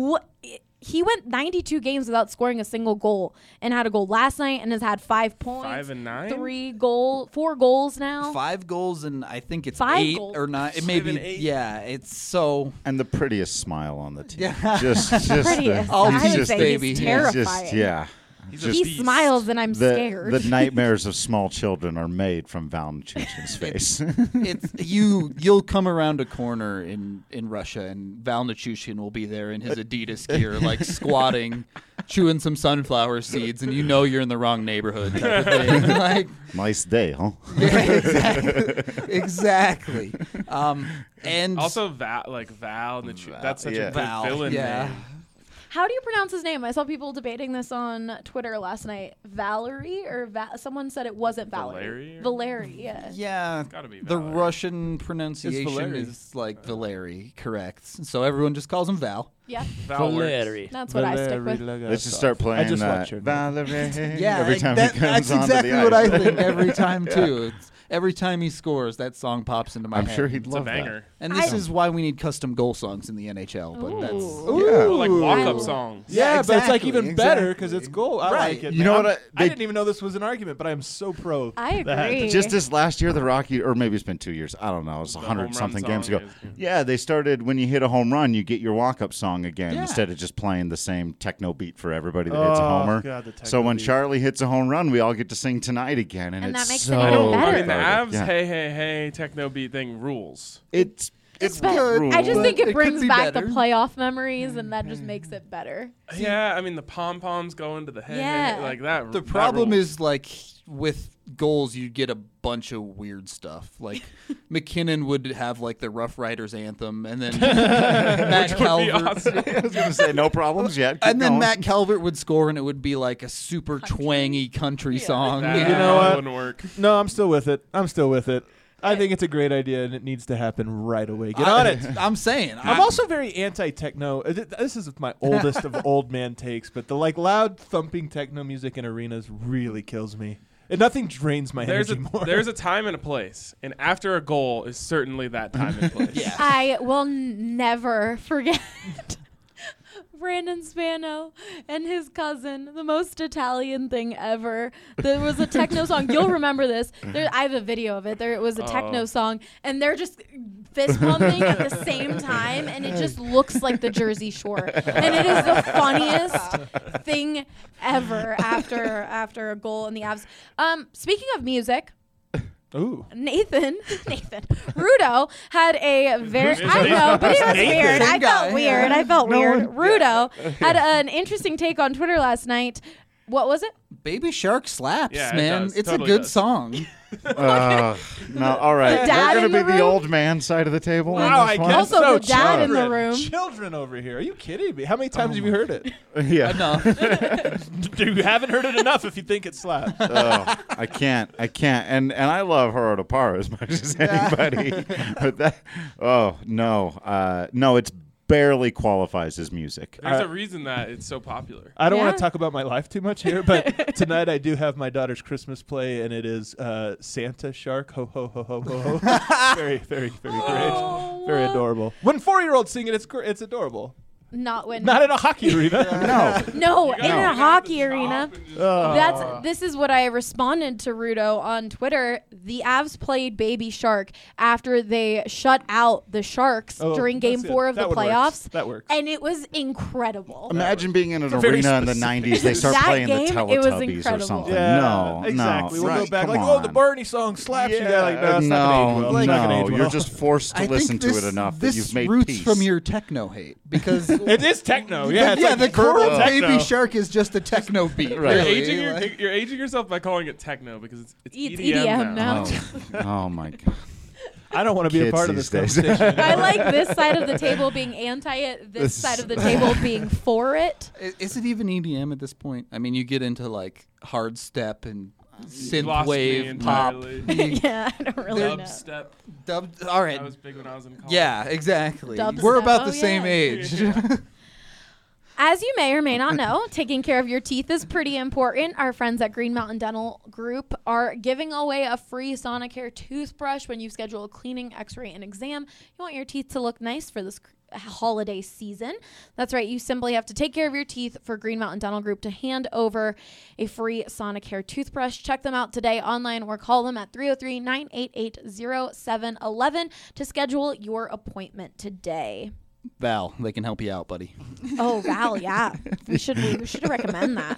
S1: He went 92 games without scoring a single goal and had a goal last night and has had 5 points.
S3: 5 and 9?
S1: 4 goals now.
S4: 5 goals and I think it's
S1: 5
S4: 8
S1: goals.
S4: or 9. It may be. Yeah, it's so.
S6: And the prettiest smile on the team.
S1: Yeah.
S6: just
S1: prettiest.
S4: I
S1: would say
S4: baby.
S1: he's terrifying.
S6: Just, yeah.
S1: He smiles and I'm scared.
S6: The nightmares of small children are made from Val Nichushkin's face.
S4: You'll come around a corner in Russia and Val Nichushkin will be there in his Adidas gear, like squatting, chewing some sunflower seeds, and you know you're in the wrong neighborhood. Type of thing. Like,
S6: nice day, huh?
S4: Yeah, exactly. And
S3: also Val Nichushkin. That's such a good villain name.
S1: How do you pronounce his name? I saw people debating this on Twitter last night. Valerie or someone said it wasn't Valerie. Valeri, yeah.
S4: Yeah.
S3: It's gotta be
S4: the
S3: Valerie.
S4: Russian pronunciation is like Valeri, correct. So everyone just calls him Val.
S1: Yeah.
S5: Valeri.
S1: That's what I stick with.
S6: Let's just start playing Valerie.
S4: Yeah,
S6: every time he comes
S4: that's
S6: onto
S4: exactly
S6: the ice.
S4: what I think every time too. Every time he scores, that song pops into my head.
S6: I'm sure he'd love
S3: a banger.
S6: that.
S4: And this is why we need custom goal songs in the NHL. But that's
S3: Ooh, like walk-up songs.
S2: Yeah,
S6: exactly,
S2: but it's like even better because it's goal. I like it.
S6: You know
S2: man.
S6: what?
S2: I didn't even know this was an argument, but I'm so pro.
S1: I agree.
S2: that.
S6: Just this last year, the Rocky, or maybe it's been 2 years. I don't know. It was
S3: The
S6: 100-something
S3: home run
S6: games ago.
S3: song is-
S6: Yeah, they started when you hit a home run, you get your walk-up song again instead of just playing the same techno beat for everybody that hits a homer.
S2: God, the techno
S6: So when
S2: beat.
S6: Charlie hits a home run, we all get to sing Tonight again, and
S1: And
S6: it's
S1: that makes it
S6: so
S1: even better.
S3: I mean, the
S6: perfect.
S3: Avs,
S6: Yeah.
S3: hey, techno beat thing rules.
S6: It's
S1: But I just think
S4: But
S1: it
S4: it
S1: brings
S4: could be
S1: back
S4: better.
S1: the playoff memories, and that just makes it better.
S3: Yeah, I mean, the pom-poms go into the head.
S1: Yeah.
S3: Like that.
S4: the
S3: that
S4: problem
S3: rules.
S4: is like with goals, you get a bunch of weird stuff. Like McKinnon would have like the Rough Riders anthem, and then Matt
S3: Which would be
S4: Calvert.
S3: awesome.
S6: I was going to say no problems yet. Keep
S4: And then
S6: going.
S4: Matt Calvert would score, and it would be like a super twangy country song.
S3: That
S2: You know what?
S3: wouldn't work.
S2: No, I'm still with it. I think it's a great idea, and it needs to happen right away. Get on it.
S4: I'm saying.
S2: I'm also very anti-techno. This is my oldest of old man takes, but the loud thumping techno music in arenas really kills me. And nothing drains my energy more.
S3: There's a time and a place, and after a goal is certainly that time and place.
S4: Yeah.
S1: I will never forget Brandon Spano and his cousin, the most Italian thing ever. There was a techno song. You'll remember this. I have a video of it. It was a techno song, and they're just fist pumping at the same time, and it just looks like the Jersey Shore. And it is the funniest thing ever after a goal in the Avs. Speaking of music,
S2: Ooh.
S1: Nathan, Rudo had a very,
S3: Who is
S1: I know, but it was
S2: Nathan?
S1: weird. I
S4: Same guy,
S1: felt weird.
S4: yeah.
S1: I felt weird. Rudo had an interesting take on Twitter last night. What was it?
S4: Baby Shark slaps,
S3: Yeah, it
S4: man.
S3: does.
S4: It's
S3: Totally
S4: a good
S3: does.
S4: song.
S6: No, all right.
S1: The dad
S6: We're
S1: in
S6: going to
S1: the
S6: be the
S1: room?
S6: old man side of the table.
S2: Wow,
S6: on
S2: I
S6: this one?
S2: guess
S1: Also,
S2: so.
S1: the dad in the
S2: Children.
S1: room.
S2: Children over here. Are you kidding me? How many times have you heard it?
S6: Yeah.
S4: No.
S2: You haven't heard it enough if you think it slaps.
S6: Oh, I can't. And I love Gerardo Parra as much as anybody. But that, no, it's barely qualifies as music.
S3: There's a reason that it's so popular.
S2: I don't want
S1: Yeah.
S2: to talk about my life too much here, but tonight I do have my daughter's Christmas play, and it is Santa Shark, ho, ho, ho, ho, ho, ho. Very, very, very great. Very adorable. When 4-year-olds sing it, it's adorable.
S1: Not when.
S2: Not in a hockey arena.
S1: No,
S3: You
S1: in
S3: gotta-
S1: a
S3: you
S1: hockey
S3: gotta
S1: arena.
S3: stop and just-
S1: This is what I responded to Rudo on Twitter. The Avs played Baby Shark after they shut out the Sharks during Game
S2: that's it.
S1: 4 of the
S2: That one works.
S1: playoffs.
S2: That works.
S1: And it was incredible.
S6: Imagine being in an
S2: very
S6: arena in the
S2: specific-
S6: 90s. They start
S1: That
S6: playing the
S1: game, it was
S6: Teletubbies or
S1: incredible.
S6: something.
S2: Yeah,
S6: No,
S2: exactly.
S6: no.
S2: We'll go
S6: right,
S2: back
S6: come
S2: like, the
S6: on.
S2: Bernie song slaps you. Yeah, like, no, it's not
S6: no,
S2: gonna age well. It's not gonna age well.
S6: you're just forced to listen to it enough that
S10: this
S6: you've made
S10: roots
S6: peace.
S10: from your techno hate because
S2: It is techno. Yeah, it's
S10: yeah,
S2: like
S10: the core
S2: verbal
S10: of
S2: techno.
S10: Baby Shark is just a techno beat.
S6: Right.
S10: Really.
S3: You're aging yourself by calling it techno because it's
S1: It's
S3: EDM now.
S6: Oh my god.
S2: I don't want to be a
S6: Kids
S2: part of this
S6: these days.
S2: conversation.
S1: I like this side of the table being anti it, this side of the table being for it.
S4: Is it even EDM at this point? I mean, you get into like hard step and synth
S3: Lost me
S4: wave pop.
S3: entirely.
S1: Yeah, I don't really know.
S3: Dubstep.
S4: All right.
S3: That was big when I was in college.
S4: Yeah, exactly.
S1: Dubstep.
S4: We're about
S1: Oh,
S4: the same
S1: yeah.
S4: age.
S1: As you may or may not know, taking care of your teeth is pretty important. Our friends at Green Mountain Dental Group are giving away a free Sonicare toothbrush when you schedule a cleaning, x-ray, and exam. You want your teeth to look nice for this holiday season. That's right. You simply have to take care of your teeth for Green Mountain Dental Group to hand over a free Sonicare toothbrush. Check them out today online or call them at 303-988-0711 to schedule your appointment today.
S4: Val, they can help you out, buddy.
S1: Oh, Val, yeah. We should recommend that.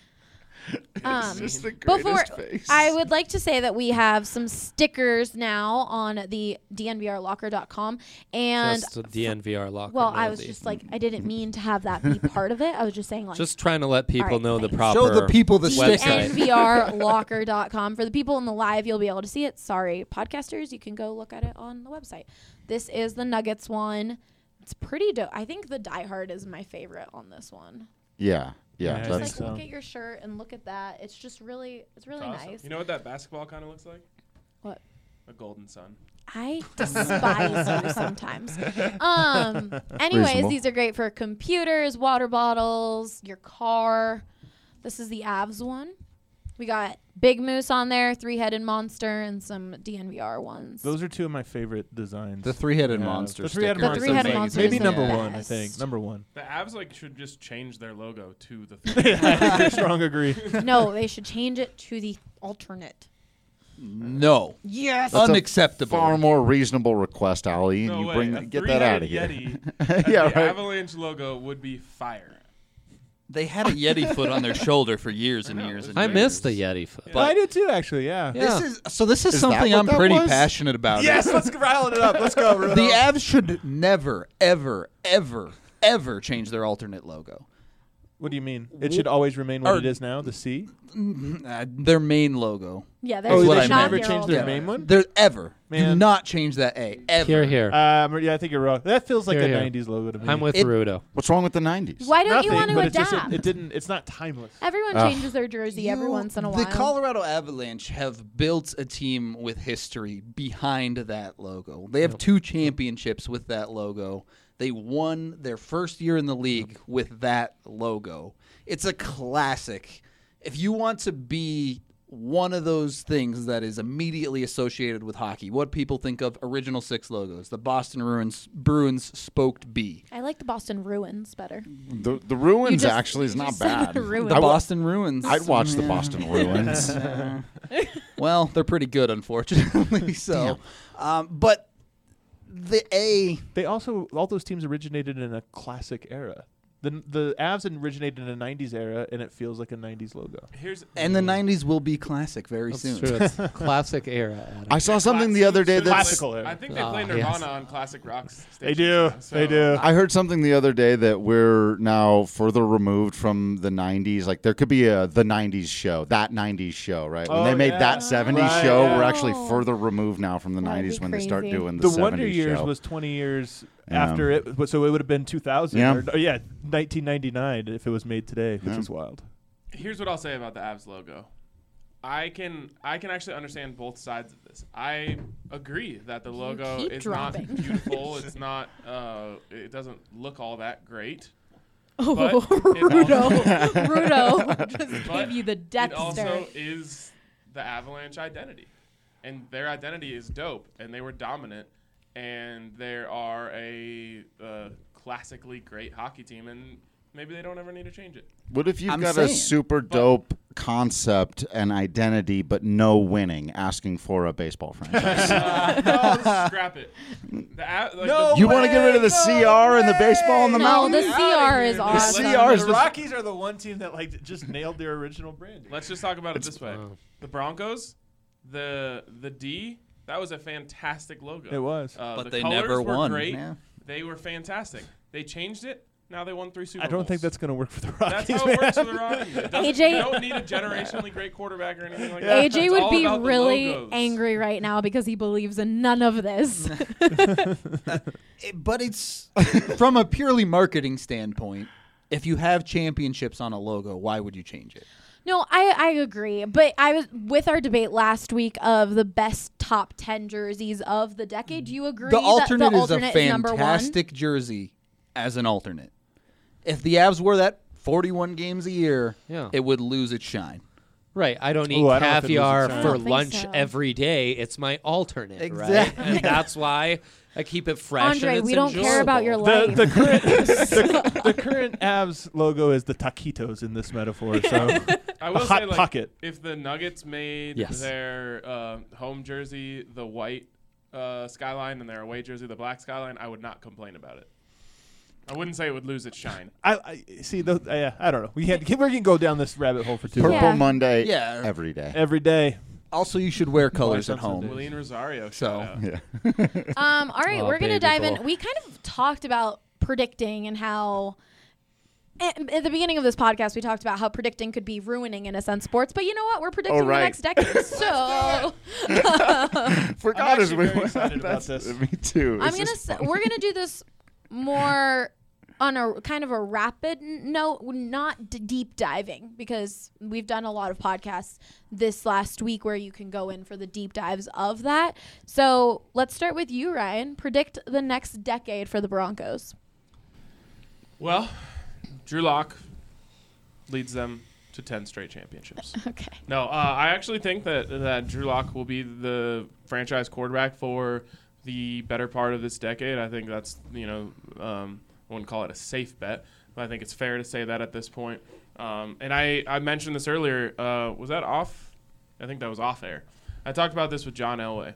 S6: Just the
S1: Before
S6: greatest face.
S1: I would like to say that we have some stickers now on the DNVRlocker.com and
S5: Just a DNVR locker.
S1: well, I
S5: no,
S1: was
S5: the-
S1: just like I didn't mean to have that be part of it. I was just saying like
S5: just trying to let people
S1: Alright,
S5: know the
S1: thanks.
S5: proper
S10: Show the people the
S5: website.
S1: DNVRlocker.com. For the people in the live, you'll be able to see it. Sorry, podcasters, you can go look at it on the website. This is the Nuggets one. It's pretty dope. I think the Die Hard is my favorite on this one.
S6: Yeah.
S2: Yeah, I
S1: It's
S2: think
S1: like
S2: so.
S1: look at your shirt and look at that. It's just really, it's really
S3: Awesome.
S1: nice.
S3: You know what that basketball kind of looks like?
S1: What?
S3: A golden sun.
S1: I despise you sometimes. Anyways,
S6: Reasonable.
S1: these are great for computers, water bottles, your car. This is the Avs one. We got Big Moose on there, 3-headed monster, and some DNVR ones.
S2: Those are two of my favorite designs.
S10: The three-headed
S2: Yeah,
S10: monster.
S2: The three-headed
S10: sticker
S1: The
S10: is
S1: three-headed
S10: amazing.
S1: monster
S2: Maybe
S1: is the
S2: number one, I
S1: best.
S2: think. Number one.
S3: The Avs should just change their logo to the
S2: I strong agree.
S1: No, they should change it to the alternate.
S4: No.
S1: Yes.
S6: That's a
S4: Unacceptable.
S6: Far more reasonable request, Ali, and
S3: No
S6: you
S3: way.
S6: bring
S3: A
S6: get that out of
S3: three-headed
S6: here.
S3: Yeti,
S6: Yeah,
S3: the
S6: right.
S3: Avalanche logo would be fire.
S4: They had a Yeti foot on their shoulder for years and
S3: I know,
S4: years
S3: it
S4: and
S3: was
S5: I
S4: years.
S5: missed the Yeti foot.
S2: I did too, actually. Yeah.
S5: Yeah.
S4: This is
S6: Is that
S4: something
S6: what
S4: I'm
S6: that
S4: pretty
S6: was?
S4: passionate about.
S2: Yes, let's rile it up. Let's go. Rudo.
S4: The Avs should never, ever, ever, ever change their alternate logo.
S2: What do you mean? It should always remain what
S4: Or-
S2: it is now. The C.
S4: Their main logo.
S1: Yeah,
S2: Oh,
S1: there's
S4: what
S2: they
S4: I
S2: should
S4: meant.
S2: never
S1: your
S2: change their
S1: alternate.
S2: main one.
S4: They're ever. Do
S2: Man.
S4: not change that A. Ever.
S5: Here, here.
S2: Yeah, I think you're wrong. That feels like
S5: Here,
S2: a
S5: here.
S2: '90s logo to me.
S5: I'm with
S4: It-
S5: Rudo.
S6: What's wrong with the 90s?
S1: Why don't
S2: Nothing,
S1: you want to
S2: but it's just
S1: adapt?
S2: it didn't. It's not timeless.
S1: Everyone
S6: Ugh.
S1: changes their jersey every once in a while.
S4: The Colorado Avalanche have built a team with history behind that logo. They have 2 championships with that logo. They won their first year in the league with that logo. It's a classic. If you want to be one of those things that is immediately associated with hockey, what people think of original 6 logos, the Boston Bruins spoked B.
S1: I like the Boston Ruins better.
S6: The Ruins
S1: just-
S6: actually is
S1: you
S6: not
S1: just said
S6: bad.
S1: the Ruins.
S4: The
S6: I wa-
S4: Boston Bruins.
S6: I'd watch the Boston Ruins.
S4: Well, they're pretty good, unfortunately. So, but the A.
S2: They also all those teams originated in a classic era. The Avs originated in a '90s era, and it feels like a '90s logo.
S4: And the 90s will be classic very
S5: That's
S4: soon.
S5: true. It's classic era. Adam.
S6: I saw something the other day that's.
S2: Classical era.
S3: I think they
S5: Ah,
S3: play
S5: yes.
S3: Nirvana on classic rock stations.
S2: They do.
S3: now, so-
S2: They do.
S6: I heard something the other day that we're now further removed from the 90s. Like there could be the 90s show, that 90s show, right? When
S2: Oh,
S6: they made
S2: yeah.
S6: that 70s
S2: Right,
S6: show,
S2: yeah.
S6: we're actually
S1: Oh.
S6: further removed now from the
S1: That'd
S6: 90s
S1: be
S6: when they start
S1: crazy.
S6: doing the
S2: The
S6: 70s
S2: Wonder Years
S6: show.
S2: was 20 years
S6: Yeah.
S2: after it, so it would have been 2000.
S6: Yeah.
S2: Or, 1999 if it was made today, which
S6: Yeah.
S2: is wild.
S3: Here's what I'll say about the Avs logo. I can actually understand both sides of this. I agree that the logo
S1: keep
S3: is
S1: dropping.
S3: not beautiful. It's not. It doesn't look all that great.
S1: Oh,
S3: But it
S1: Rudo just
S3: But
S1: gave you the death
S3: It also
S1: stare.
S3: is the Avalanche identity, and their identity is dope, and they were dominant, and they are a classically great hockey team, and maybe they don't ever need to change it.
S6: What if you've
S10: I'm
S6: got a
S10: saying.
S6: super dope concept and identity, but no winning, asking for a baseball franchise?
S3: No, scrap it.
S6: You want to get rid of the CR and the baseball and the
S1: No,
S6: mountain?
S1: the CR is awesome.
S6: CR is
S2: The
S6: the
S2: Rockies are the one team that just nailed their original branding.
S3: Let's just talk about it this way: the Broncos, the D, that was a fantastic logo.
S2: It was.
S4: But
S3: the
S4: they
S3: colors
S4: never
S3: were
S4: won.
S3: Great.
S10: Yeah.
S3: They were fantastic. They changed it. Now they won 3 Super
S2: I
S3: Bowls.
S2: don't think that's going to work for the Rockies.
S3: That's how it works for the Rockies.
S1: AJ
S3: You don't need a generationally great quarterback or anything like that.
S1: AJ
S3: It's
S1: would
S3: all
S1: be
S3: about the
S1: really
S3: logos.
S1: angry right now because he believes in none of this.
S10: But it's from a purely marketing standpoint. If you have championships on a logo, why would you change it?
S1: No, I agree. But I was with our debate last week of the best top 10 jerseys of the decade. Do you agree
S10: The alternate,
S1: that the alternate
S10: is a
S1: is number one?
S10: fantastic jersey as an alternate. If the Avs wore that 41 games a year,
S5: Yeah.
S10: it would lose its shine.
S5: Right. I don't eat
S2: Ooh, I don't know if it
S5: caviar
S2: loses its
S5: for
S1: shine. I don't think
S5: lunch
S1: so.
S5: every day. It's my alternate, right?
S10: Exactly.
S5: And that's why I keep it fresh.
S1: Andre,
S5: and it's
S1: we don't care about your
S5: enjoyable.
S1: life.
S2: The current the current Avs logo is the taquitos in this metaphor. So
S3: I will
S2: a hot
S3: say, like,
S2: pocket.
S3: if the Nuggets made
S5: Yes.
S3: their home jersey the white skyline and their away jersey the black skyline, I would not complain about it. I wouldn't say it would lose its shine.
S2: I see. I don't know. We can go down this rabbit hole for too
S6: Purple
S2: long.
S1: Yeah.
S6: Monday
S10: Yeah.
S6: every day.
S2: Every day.
S10: Also, you should wear colors at
S2: on
S10: home.
S2: Sundays.
S3: Willian Rosario.
S10: So,
S3: shout out.
S6: Yeah.
S1: All right,
S5: Oh,
S1: we're going to
S5: baby
S1: dive in.
S5: boy.
S1: We kind of talked about predicting and how at the beginning of this podcast, we talked about how predicting could be ruining, in a sense, sports. But you know what? We're predicting the
S6: right.
S1: next decade. So
S6: Forgot as
S2: actually
S6: we
S2: very excited about this.
S6: Me too.
S1: I'm gonna we're gonna do this more on a kind of a rapid note, not deep diving, because we've done a lot of podcasts this last week where you can go in for the deep dives of that. So let's start with you, Ryan. Predict the next decade for the Broncos.
S3: Well, Drew Lock leads them to 10 straight championships.
S1: Okay.
S3: No, I actually think that Drew Lock will be the franchise quarterback for the better part of this decade. I think that's, I wouldn't call it a safe bet, but I think it's fair to say that at this point. And I mentioned this earlier. Was that off? I think that was off air. I talked about this with John Elway.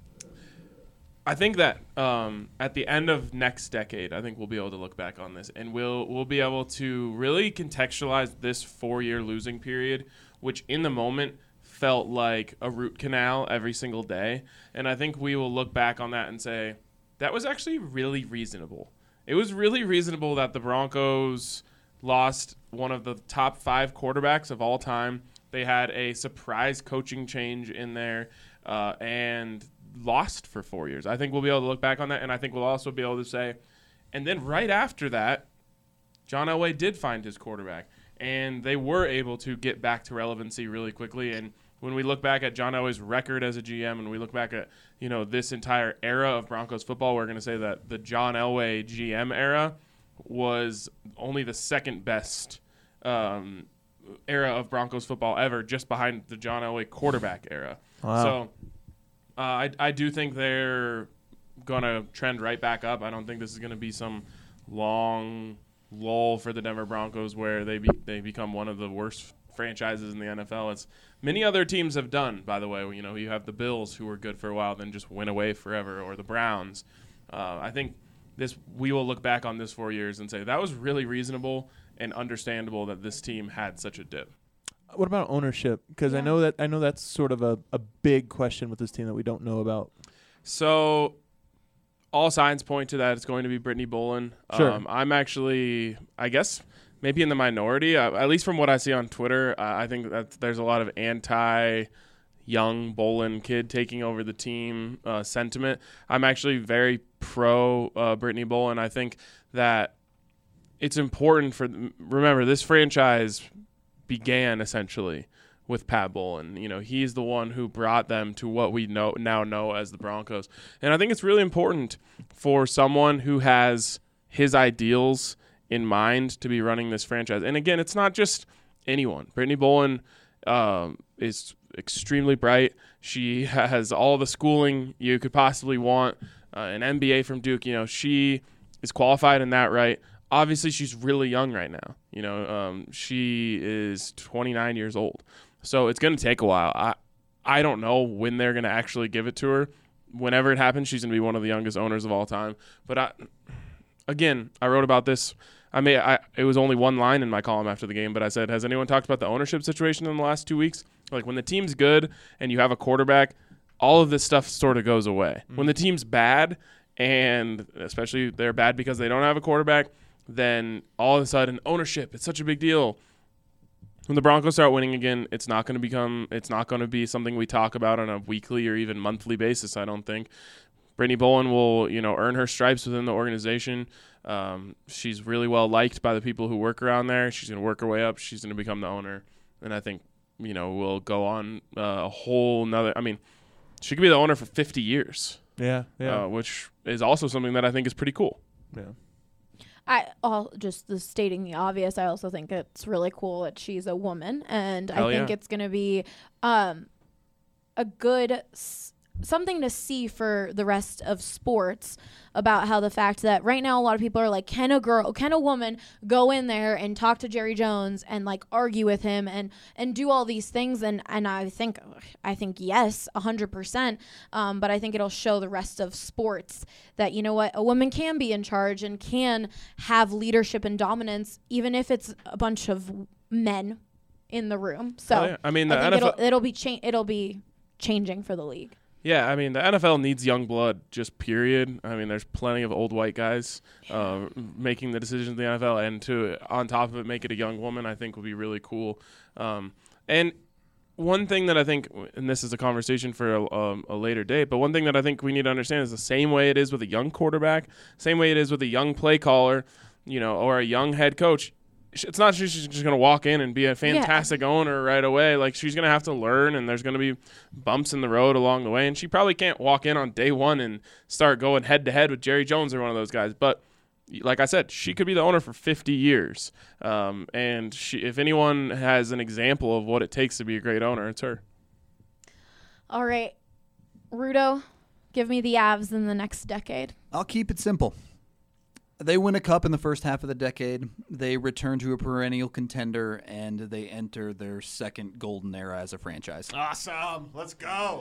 S3: I think that at the end of next decade, I think we'll be able to look back on this, and we'll be able to really contextualize this 4-year losing period, which in the moment felt like a root canal every single day. And I think we will look back on that and say, that was actually really reasonable. It was really reasonable that the Broncos lost one of the top 5 quarterbacks of all time. They had a surprise coaching change in there and lost for 4 years. I think we'll be able to look back on that, and I think we'll also be able to say, and then right after that, John Elway did find his quarterback, and they were able to get back to relevancy really quickly. And when we look back at John Elway's record as a GM, and we look back at this entire era of Broncos football, we're going to say that the John Elway GM era was only the second best era of Broncos football ever, just behind the John Elway quarterback era.
S2: Wow.
S3: So I do think they're going to trend right back up. I don't think this is going to be some long lull for the Denver Broncos where they become one of the worst franchises in the NFL. It's many other teams have done, by the way. You have the Bills, who were good for a while, then just went away forever, or the Browns. I think we will look back on this 4 years and say that was really reasonable and understandable that this team had such a dip.
S2: What about ownership? Because I know that's sort of a big question with this team that we don't know about.
S3: So all signs point to that it's going to be Brittany Bolin.
S2: Sure.
S3: I'm actually, I guess, maybe in the minority, at least from what I see on Twitter. I think that there's a lot of anti-young Bolin kid taking over the team sentiment. I'm actually very pro Brittany Bolin. I think that it's important remember, this franchise began essentially with Pat Bolin. He's the one who brought them to what we now know as the Broncos. And I think it's really important for someone who has his ideals in mind to be running this franchise. And again, it's not just anyone. Brittany Bolin is extremely bright. She has all the schooling you could possibly want, an MBA from Duke. She is qualified in that right. Obviously, she's really young right now. You know, she is 29 years old. So it's going to take a while. I don't know when they're going to actually give it to her. Whenever it happens, she's going to be one of the youngest owners of all time. But I wrote about this. It was only one line in my column after the game, but I said, has anyone talked about the ownership situation in the last 2 weeks? Like, when the team's good and you have a quarterback, all of this stuff sort of goes away. When the team's bad, and especially they're bad because they don't have a quarterback, then all of a sudden ownership, it's such a big deal. When the Broncos start winning again, it's not going to be something we talk about on a weekly or even monthly basis, I don't think. Brittany Bowen will, earn her stripes within the organization. She's really well liked by the people who work around there. She's going to work her way up. She's going to become the owner. And I think, we'll go on a whole nother, she could be the owner for 50 years.
S2: Yeah.
S3: Which is also something that I think is pretty cool.
S2: Yeah.
S1: Just stating the obvious, I also think it's really cool that she's a woman, and I think it's going to be a good something to see for the rest of sports about how the fact that right now a lot of people are like, can a woman go in there and talk to Jerry Jones and like argue with him and do all these things, and I think yes, 100%, but I think it'll show the rest of sports that, you know what, a woman can be in charge and can have leadership and dominance even if it's a bunch of men in the room. So
S3: I think
S1: NFL it'll be changing for the league.
S3: Yeah, the NFL needs young blood, just period. There's plenty of old white guys making the decisions in the NFL, and to, on top of it, make it a young woman, I think would be really cool. And one thing that I think, and this is a conversation for a later date, but one thing that I think we need to understand is the same way it is with a young quarterback, same way it is with a young play caller, or a young head coach. It's not she's just going to walk in and be a fantastic owner right away. Like, she's going to have to learn, and there's going to be bumps in the road along the way. And she probably can't walk in on day one and start going head-to-head with Jerry Jones or one of those guys. But like I said, she could be the owner for 50 years. And if anyone has an example of what it takes to be a great owner, it's her.
S1: All right. Rudo, give me the Avs in the next decade.
S10: I'll keep it simple. They win a cup in the first half of the decade. They return to a perennial contender, and they enter their second golden era as a franchise.
S6: Awesome. Let's go.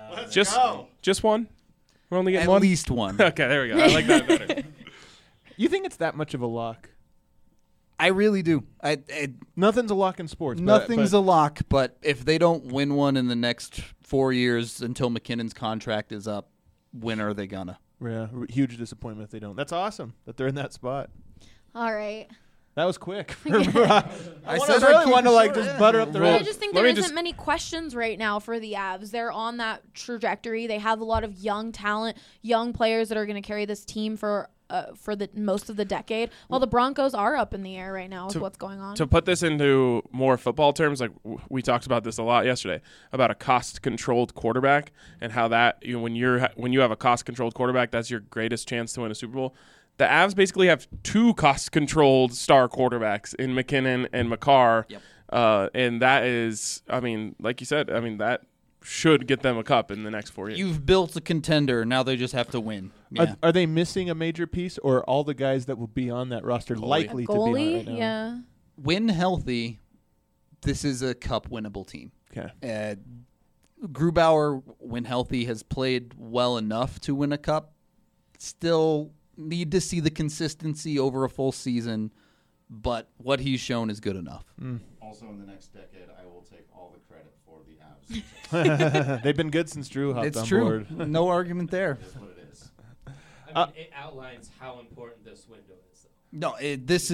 S3: Just one? We're only getting
S10: At
S3: one?
S10: least one.
S3: Okay, there we go. I like that better.
S2: You think it's that much of a lock?
S10: I really do.
S2: Nothing's a lock in sports.
S10: Nothing's a lock, but if they don't win one in the next 4 years until McKinnon's contract is up, when are they gonna?
S2: Yeah, huge disappointment if they don't. That's awesome that they're in that spot.
S1: All right.
S2: That was quick. I
S10: really
S2: want to just butter up the road.
S1: I just think there isn't many questions right now for the Avs. They're on that trajectory. They have a lot of young talent, young players that are going to carry this team for the most of the decade. While the Broncos are up in the air right now with what's going on.
S3: To put this into more football terms, like we talked about this a lot yesterday about a cost-controlled quarterback and how that when you have a cost-controlled quarterback, that's your greatest chance to win a Super Bowl. The Avs basically have two cost-controlled star quarterbacks in McKinnon and McCarr.
S10: Yep.
S3: And that is, like you said, that should get them a cup in the next 4 years.
S10: You've built a contender. Now they just have to win. Yeah.
S2: Are they missing a major piece, or are all the guys that will be on that roster likely to be on it right now?
S1: Yeah.
S10: When healthy, this is a cup winnable team.
S2: Okay.
S10: Grubauer, when healthy, has played well enough to win a cup. Still need to see the consistency over a full season, but what he's shown is good enough.
S6: Also, in the next decade, I will take all the credit for the Avs.
S2: They've been good since Drew hopped
S10: It's
S2: on
S10: true.
S2: board.
S10: No argument there.
S6: That's what it is.
S5: It outlines how important this window is.
S10: No, this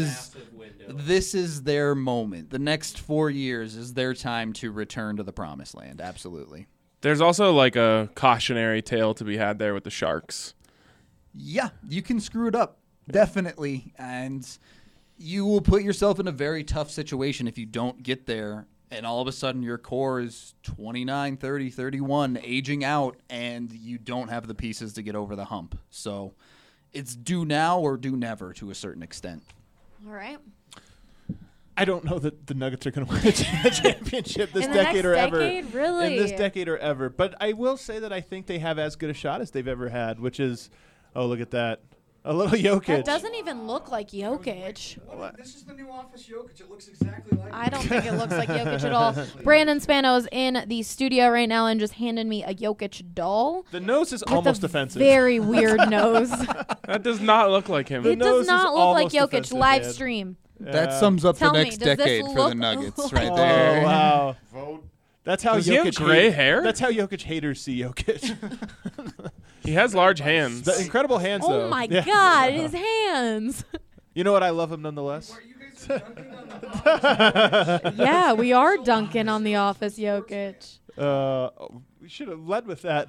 S10: is their moment. The next 4 years is their time to return to the promised land. Absolutely.
S3: There's also like a cautionary tale to be had there with the Sharks.
S10: Yeah, you can screw it up. Definitely. And you will put yourself in a very tough situation if you don't get there. And all of a sudden your core is 29, 30, 31, aging out, and you don't have the pieces to get over the hump. So it's do now or do never to a certain extent.
S1: All right.
S2: I don't know that the Nuggets are going to win a championship this
S1: In the
S2: decade
S1: next
S2: or ever.
S1: decade? Really?
S2: In this decade or ever. But I will say that I think they have as good a shot as they've ever had, which is, oh, look at that. A little Jokic.
S1: That doesn't even look like Jokic.
S11: This is the new Office Jokic. It looks exactly like
S1: I don't think it looks like Jokic at all. Brandon Spano's in the studio right now and just handed me a Jokic doll.
S2: The nose is
S1: with
S2: almost
S1: a
S2: offensive.
S1: Very weird nose.
S3: That does not look like him.
S1: It
S2: nose
S1: does
S2: is
S1: not look like
S2: almost
S1: Jokic.
S2: offensive,
S1: Live
S2: man.
S1: stream.
S10: That sums up
S1: Tell
S10: the
S1: me,
S10: next
S1: does this
S10: decade for
S1: look-
S10: the Nuggets right
S2: Oh,
S10: there.
S2: wow. That's how
S3: Does he have
S2: Jokic
S3: gray hair?
S2: That's how Jokic haters see Jokic.
S3: He has large hands.
S2: The incredible hands, though.
S1: Oh my
S2: Yeah.
S1: God, his hands.
S2: You know what? I love him nonetheless.
S1: Yeah, we are dunking on the Office Jokic.
S2: We should have led with that.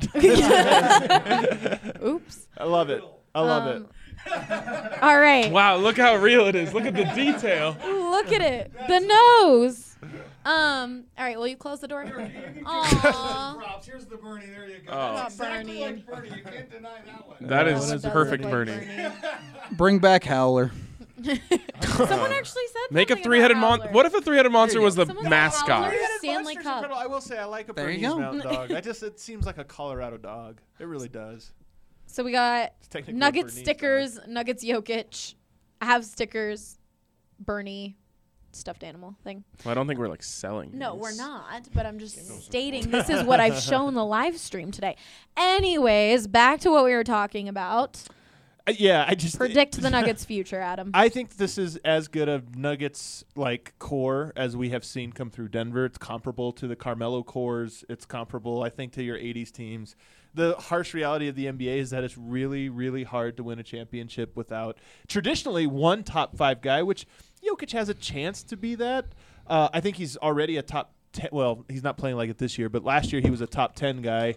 S1: Oops.
S2: I love it. I love it.
S1: All right.
S3: Wow, look how real it is. Look at the detail.
S1: Look at it. The nose. All right, will you close the door? Aww.
S11: Here's the Bernie. There you go.
S3: Oh.
S11: That's exactly
S1: Bernie.
S11: like Bernie. You can't deny that one.
S3: That
S1: Oh,
S3: is
S1: it does
S3: perfect,
S1: look like
S3: Bernie.
S10: Bring back Howler.
S1: Someone actually said
S3: Make a
S1: something
S3: three-headed
S1: about
S3: monster.
S1: Howler.
S3: What if a three-headed monster was the
S1: Someone said
S3: mascot?
S1: Howler.
S2: Three-headed
S1: Stanley
S2: monster's
S1: Cup.
S2: incredible. I will say I like a
S10: There you
S2: Bernese
S10: go.
S2: Mountain Dog. It seems like a Colorado dog. It really does.
S1: So we got
S2: It's technically a
S1: Nuggets
S2: Bernese
S1: stickers,
S2: dog.
S1: Nuggets Jokic. I have stickers, Bernie, stuffed animal thing.
S3: Well, I don't think we're like selling.
S1: No,
S3: these.
S1: we're not, but I'm just stating this is what I've shown the live stream today. Anyways, back to what we were talking about.
S2: Yeah, I just
S1: Predict the Nuggets' future, Adam.
S2: I think this is as good a Nuggets like core as we have seen come through Denver. It's comparable to the Carmelo cores. It's comparable, I think, to your 80s teams. The harsh reality of the NBA is that it's really, really hard to win a championship without traditionally one top 5 guy, which Jokic has a chance to be that. I think he's already a top 10. Well, he's not playing like it this year, but last year he was a top 10 guy.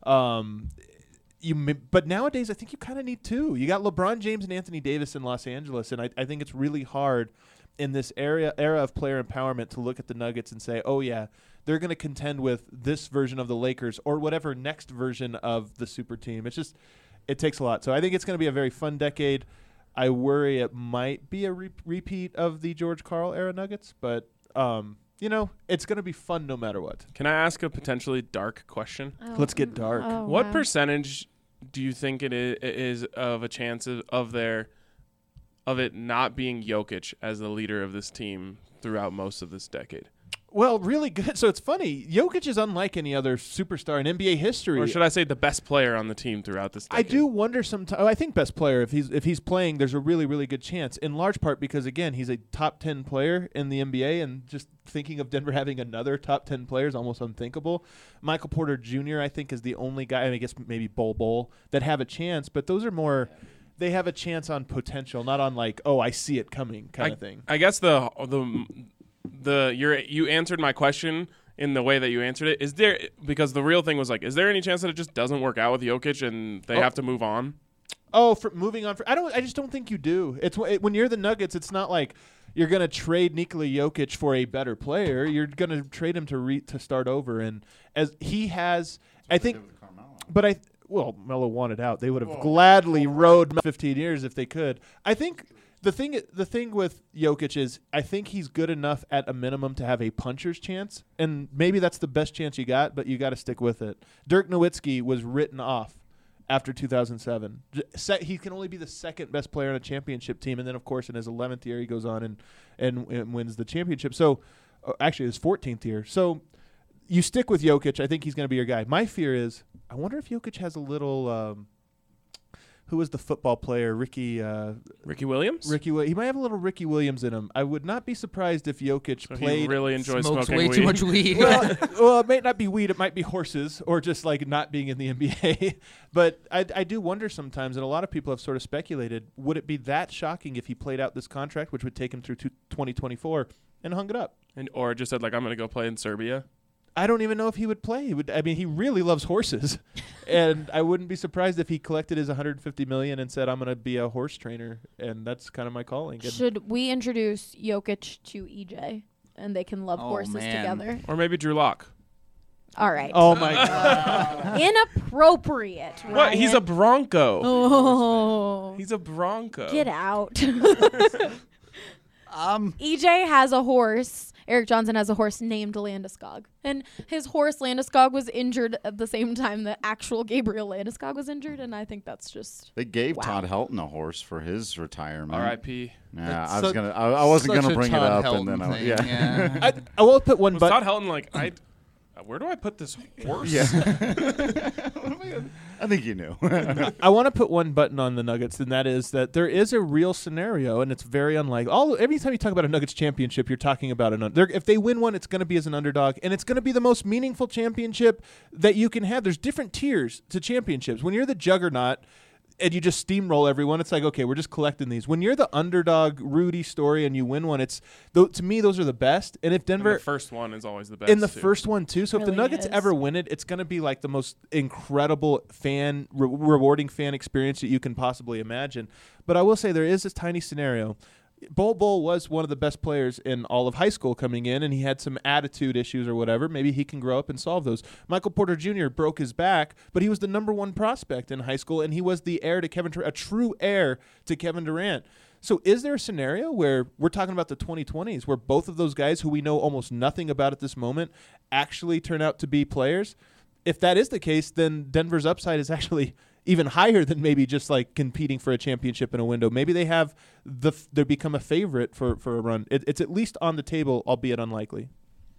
S2: But nowadays, I think you kind of need 2. You got LeBron James and Anthony Davis in Los Angeles, and I think it's really hard in this era of player empowerment to look at the Nuggets and say, oh, yeah, they're going to contend with this version of the Lakers or whatever next version of the super team. It takes a lot. So I think it's going to be a very fun decade. I worry it might be a repeat of the George Karl era Nuggets, but it's going to be fun no matter what.
S3: Can I ask a potentially dark question?
S2: Let's get dark.
S3: What percentage do you think it is of a chance of it not being Jokic as the leader of this team throughout most of this decade?
S2: Well, really good. So it's funny. Jokic is unlike any other superstar in NBA history.
S3: Or should I say the best player on the team throughout this decade?
S2: I do wonder sometimes. I think best player. If he's playing, there's a really, really good chance. In large part because, again, he's a top 10 player in the NBA, and just thinking of Denver having another top 10 player is almost unthinkable. Michael Porter Jr., I think, is the only guy, I guess maybe Bol, that have a chance. But those are more – they have a chance on potential, not on like, oh, I see it coming kind of thing.
S3: I guess you answered my question in the way that you answered it. Is there, because the real thing was like, is there any chance that it just doesn't work out with Jokic and they have to move on?
S2: Oh, for moving on. I just don't think you do. When you're the Nuggets, it's not like you're going to trade Nikola Jokic for a better player. You're going to trade him to start over. And as he has, I think, but Melo wanted out. They would have gladly rode 15 years if they could. I think the thing with Jokic is I think he's good enough at a minimum to have a puncher's chance, and maybe that's the best chance you got, but you got to stick with it. Dirk Nowitzki was written off after 2007. He can only be the second best player on a championship team, and then, of course, in his 11th year, he goes on and wins the championship. So, actually, his 14th year. So, you stick with Jokic. I think he's going to be your guy. My fear is I wonder if Jokic has a little who was the football player? Ricky
S3: Williams?
S2: He might have a little Ricky Williams in him. I would not be surprised if Jokic played.
S3: He really enjoys
S10: Smokes
S3: smoking
S10: way
S3: weed.
S10: too much weed.
S2: well, it might not be weed. It might be horses or just like not being in the NBA. But I do wonder sometimes, and a lot of people have sort of speculated, would it be that shocking if he played out this contract, which would take him through 2024, and hung it up?
S3: Or just said, like, I'm going to go play in Serbia?
S2: I don't even know if he would play. He really loves horses, and I wouldn't be surprised if he collected his $150 million and said, "I'm going to be a horse trainer," and that's kind of my calling.
S1: Should we introduce Jokic to EJ, and they can love horses together?
S3: Or maybe Drew Lock.
S1: All right.
S2: Oh my God!
S1: Inappropriate. Ryan.
S3: What? He's a Bronco.
S1: Oh.
S3: He's a Bronco.
S1: Get out. EJ has a horse. Eric Johnson has a horse named Landeskog. And his horse Landeskog was injured at the same time that actual Gabriel Landeskog was injured, and I think that's just
S6: They gave Todd Helton a horse for his retirement.
S3: R.I.P.
S6: Yeah,
S10: That's
S6: I wasn't
S10: such
S6: gonna
S10: a
S6: bring it
S10: Todd
S6: up, and then
S10: Helton thing,
S6: yeah.
S10: yeah.
S2: I will put one
S3: Was
S2: button.
S3: Todd Helton like, where do I put this horse?
S6: Yeah. I think you knew.
S2: I want to put one button on the Nuggets, and that is that there is a real scenario, and it's very unlike every time you talk about a Nuggets championship, you're talking about if they win one, it's going to be as an underdog, and it's going to be the most meaningful championship that you can have. There's different tiers to championships. When you're the juggernaut and you just steamroll everyone, it's like, okay, we're just collecting these. When you're the underdog Rudy story and you win one, to me, those are the best. And if Denver,
S3: And the first one is always the best.
S2: in the
S3: too.
S2: first one too. So if the
S1: Really
S2: Nuggets
S1: is.
S2: ever win it, it's going to be like the most incredible rewarding fan experience that you can possibly imagine. But I will say there is this tiny scenario. Bol was one of the best players in all of high school coming in, and he had some attitude issues or whatever. Maybe he can grow up and solve those. Michael Porter Jr. broke his back, but he was the number one prospect in high school, and he was the heir to Kevin Durant, a true heir to Kevin Durant. So is there a scenario where we're talking about the 2020s where both of those guys who we know almost nothing about at this moment actually turn out to be players? If that is the case, then Denver's upside is actually even higher than maybe just like competing for a championship in a window. Maybe they become a favorite for a run. It's at least on the table, albeit unlikely.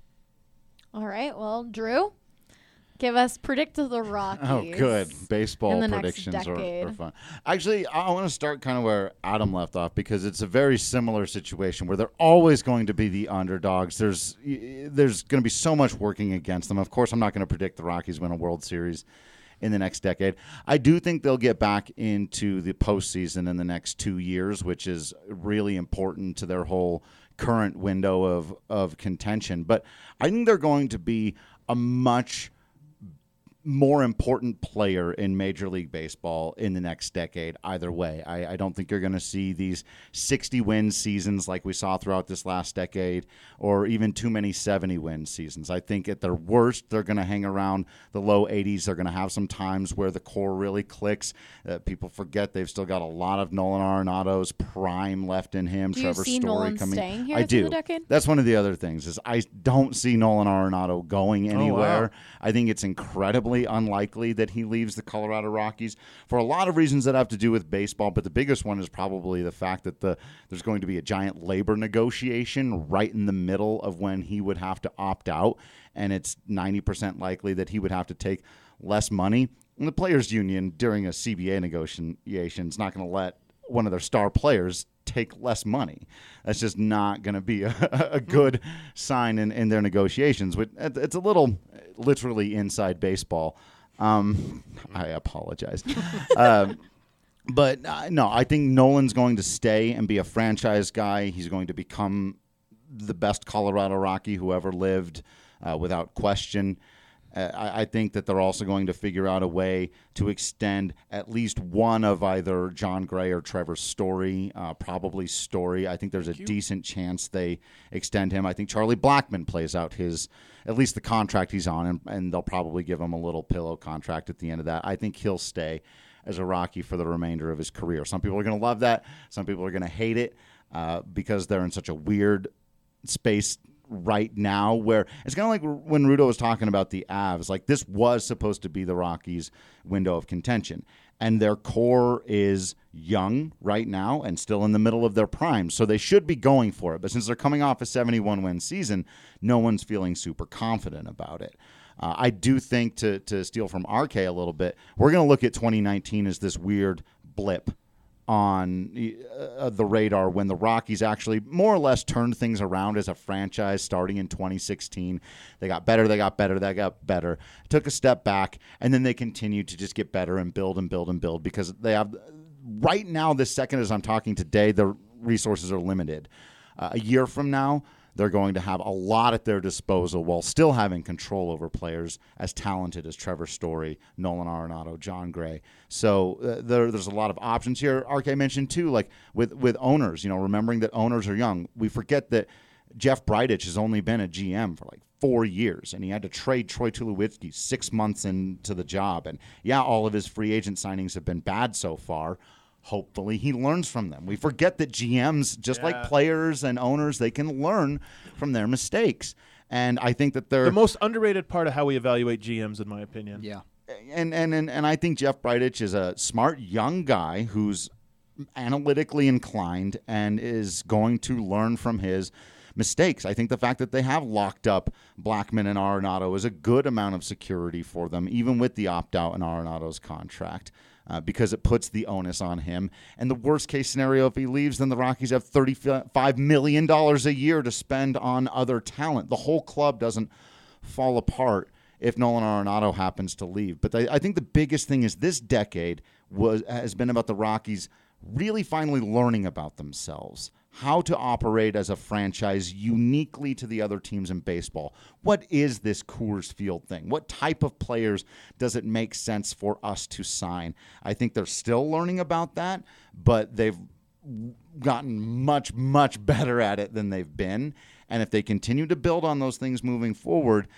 S1: all right. Well, Drew, give us predict the Rockies.
S6: Oh, good. Baseball
S1: in the next
S6: predictions are
S1: decade.
S6: fun. Actually, I want to start kind of where Adam left off because it's a very similar situation where they're always going to be the underdogs. There's going to be so much working against them. Of course, I'm not going to predict the Rockies win a World Series in the next decade. I do think they'll get back into the postseason in the next 2 years, which is really important to their whole current window of contention. But I think they're going to be a much more important player in Major League Baseball in the next decade either way. I don't think you're going to see these 60-win seasons like we saw throughout this last decade or even too many 70-win seasons. I think at their worst, they're going to hang around the low 80s. They're going to have some times where the core really clicks. People forget they've still got a lot of Nolan Arenado's prime left in him.
S1: Do
S6: Trevor
S1: you see
S6: Story
S1: Nolan
S6: coming.
S1: staying here
S6: I
S1: through
S6: do.
S1: the decade?
S6: That's one of the other things is I don't see Nolan Arenado going anywhere.
S2: wow.
S6: I think it's incredibly unlikely that he leaves the Colorado Rockies for a lot of reasons that have to do with baseball, but the biggest one is probably the fact that there's going to be a giant labor negotiation right in the middle of when he would have to opt out, and it's 90% likely that he would have to take less money. And the players' union during a CBA negotiation is not going to let one of their star players take less money. That's just not going to be a good sign in their negotiations. It's a little literally inside baseball. I apologize. But no, I think Nolan's going to stay and be a franchise guy. He's going to become the best Colorado Rocky who ever lived, without question. I think that they're also going to figure out a way to extend at least one of either John Gray or Trevor Story, probably Story. I think there's a decent chance they extend him. I think Charlie Blackmon plays out at least the contract he's on, and they'll probably give him a little pillow contract at the end of that. I think he'll stay as a Rocky for the remainder of his career. Some people are going to love that. Some people are going to hate it because they're in such a weird space right now where it's kind of like when Rudo was talking about the Avs. Like, this was supposed to be the Rockies' window of contention, and their core is young right now and still in the middle of their prime, so they should be going for it. But since they're coming off a 71-win season, no one's feeling super confident about it. I do think, to steal from RK a little bit, we're going to look at 2019 as this weird blip on the radar when the Rockies actually more or less turned things around as a franchise starting in 2016. They got better, they got better, took a step back, and then they continued to just get better and build and build and build because they have, right now, this second as I'm talking today, their resources are limited. A year from now, they're going to have a lot at their disposal while still having control over players as talented as Trevor Story, Nolan Arenado, John Gray. So there's a lot of options here. RK mentioned, too, like with owners, remembering that owners are young. We forget that Jeff Bridich has only been a GM for like 4 years, and he had to trade Troy Tulowitzki 6 months into the job. And, yeah, all of his free agent signings have been bad so far. hopefully he learns from them. We forget that GMs, just like players and owners, they can learn from their mistakes. And I think that they're
S2: the most underrated part of how we evaluate GMs, in my opinion.
S10: Yeah.
S6: And I think Jeff Bridich is a smart young guy who's analytically inclined and is going to learn from his mistakes. I think the fact that they have locked up Blackman and Arenado is a good amount of security for them, even with the opt-out in Arenado's contract, because it puts the onus on him. And the worst-case scenario, if he leaves, then the Rockies have $35 million a year to spend on other talent. The whole club doesn't fall apart if Nolan Arenado happens to leave. But I think the biggest thing is this decade has been about the Rockies really finally learning about themselves, how to operate as a franchise uniquely to the other teams in baseball. What is this Coors Field thing? What type of players does it make sense for us to sign? I think they're still learning about that, but they've gotten much, much better at it than they've been. And if they continue to build on those things moving forward,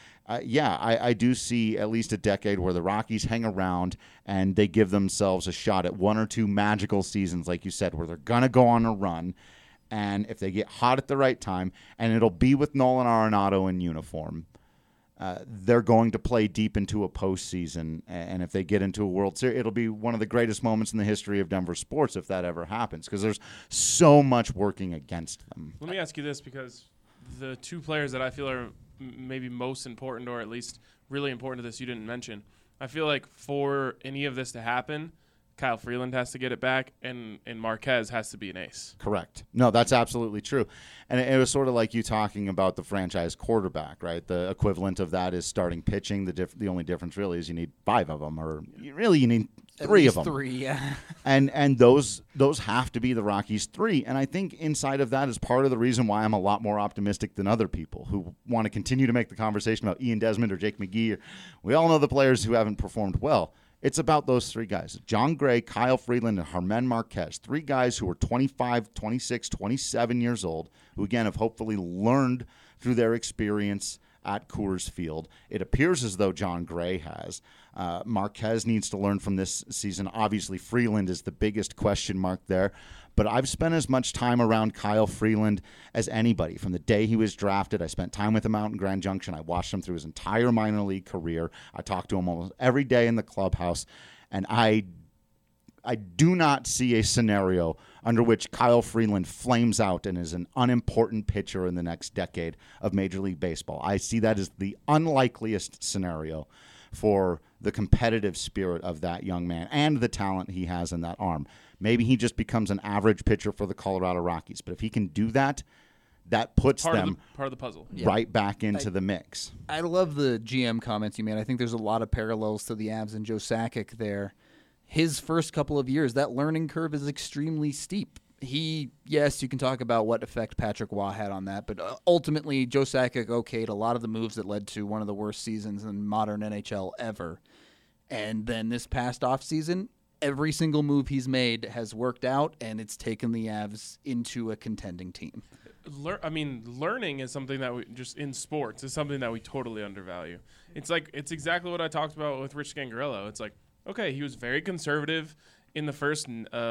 S6: I do see at least a decade where the Rockies hang around and they give themselves a shot at one or two magical seasons, like you said, where they're going to go on a run. And if they get hot at the right time, and it'll be with Nolan Arenado in uniform, they're going to play deep into a postseason. And if they get into a World Series, it'll be one of the greatest moments in the history of Denver sports if that ever happens, because there's so much working against them.
S3: Let me ask you this, because the two players that I feel are maybe most important, or at least really important to this, you didn't mention. I feel like for any of this to happen, Kyle Freeland has to get it back, and Marquez has to be an ace.
S6: Correct. No, that's absolutely true. And it was sort of like you talking about the franchise quarterback, right? The equivalent of that is starting pitching. The only difference really is you need 5 of them, or you need 3 of them.
S10: 3, yeah.
S6: And those have to be the Rockies' 3. And I think inside of that is part of the reason why I'm a lot more optimistic than other people who want to continue to make the conversation about Ian Desmond or Jake McGee. We all know the players who haven't performed well. It's about those 3 guys, John Gray, Kyle Freeland, and Germán Marquez, 3 guys who are 25, 26, 27 years old, who, again, have hopefully learned through their experience at Coors Field. It appears as though John Gray has. Marquez needs to learn from this season. Obviously, Freeland is the biggest question mark there. But I've spent as much time around Kyle Freeland as anybody. From the day he was drafted, I spent time with him out in Grand Junction. I watched him through his entire minor league career. I talked to him almost every day in the clubhouse. And I do not see a scenario under which Kyle Freeland flames out and is an unimportant pitcher in the next decade of Major League Baseball. I see that as the unlikeliest scenario for the competitive spirit of that young man and the talent he has in that arm. Maybe he just becomes an average pitcher for the Colorado Rockies. But if he can do that, that puts them
S3: part of the puzzle
S6: right back into the mix.
S10: I love the GM comments you made. I think there's a lot of parallels to the Avs and Joe Sakic there. His first couple of years, that learning curve is extremely steep. Yes, you can talk about what effect Patrick Waugh had on that, but ultimately Joe Sakic okayed a lot of the moves that led to one of the worst seasons in modern NHL ever. And then this past offseason, every single move he's made has worked out, and it's taken the Avs into a contending team.
S3: Learning is something that we just in sports is something that we totally undervalue. It's exactly what I talked about with Rich Scangarello. It's like, okay, he was very conservative in the first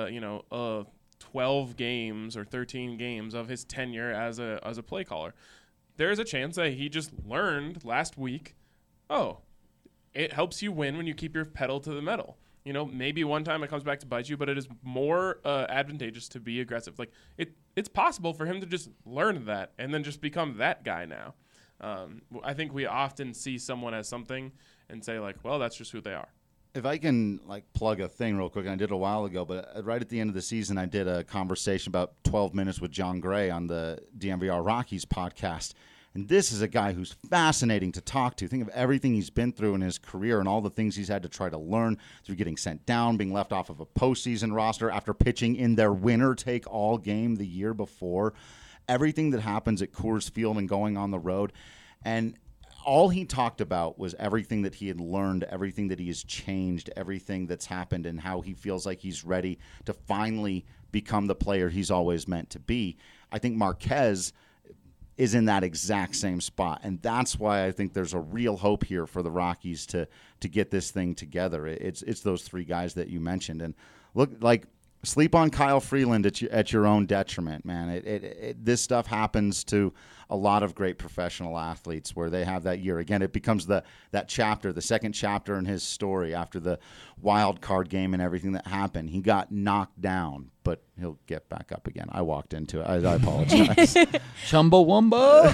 S3: 12 games or 13 games of his tenure as a play caller. There's a chance that he just learned last week, it helps you win when you keep your pedal to the metal. Maybe one time it comes back to bite you, but it is more advantageous to be aggressive. Like it's possible for him to just learn that and then just become that guy now. I think we often see someone as something and say like, well, that's just who they are.
S6: If I can plug a thing real quick, and I did it a while ago, but right at the end of the season, I did a conversation about 12 minutes with John Gray on the DNVR Rockies podcast. And this is a guy who's fascinating to talk to. Think of everything he's been through in his career and all the things he's had to try to learn through getting sent down, being left off of a postseason roster after pitching in their winner-take-all game the year before. Everything that happens at Coors Field and going on the road. And all he talked about was everything that he had learned, everything that he has changed, everything that's happened, and how he feels like he's ready to finally become the player he's always meant to be. I think Marquez is in that exact same spot, and that's why I think there's a real hope here for the Rockies to get this thing together. It's those 3 guys that you mentioned, and look, like Sleep on Kyle Freeland at your own detriment, man. This stuff happens to a lot of great professional athletes where they have that year. Again, it becomes that chapter, the second chapter in his story after the wild card game and everything that happened. He got knocked down, but he'll get back up again. I walked into it. I apologize.
S4: Chumbawamba.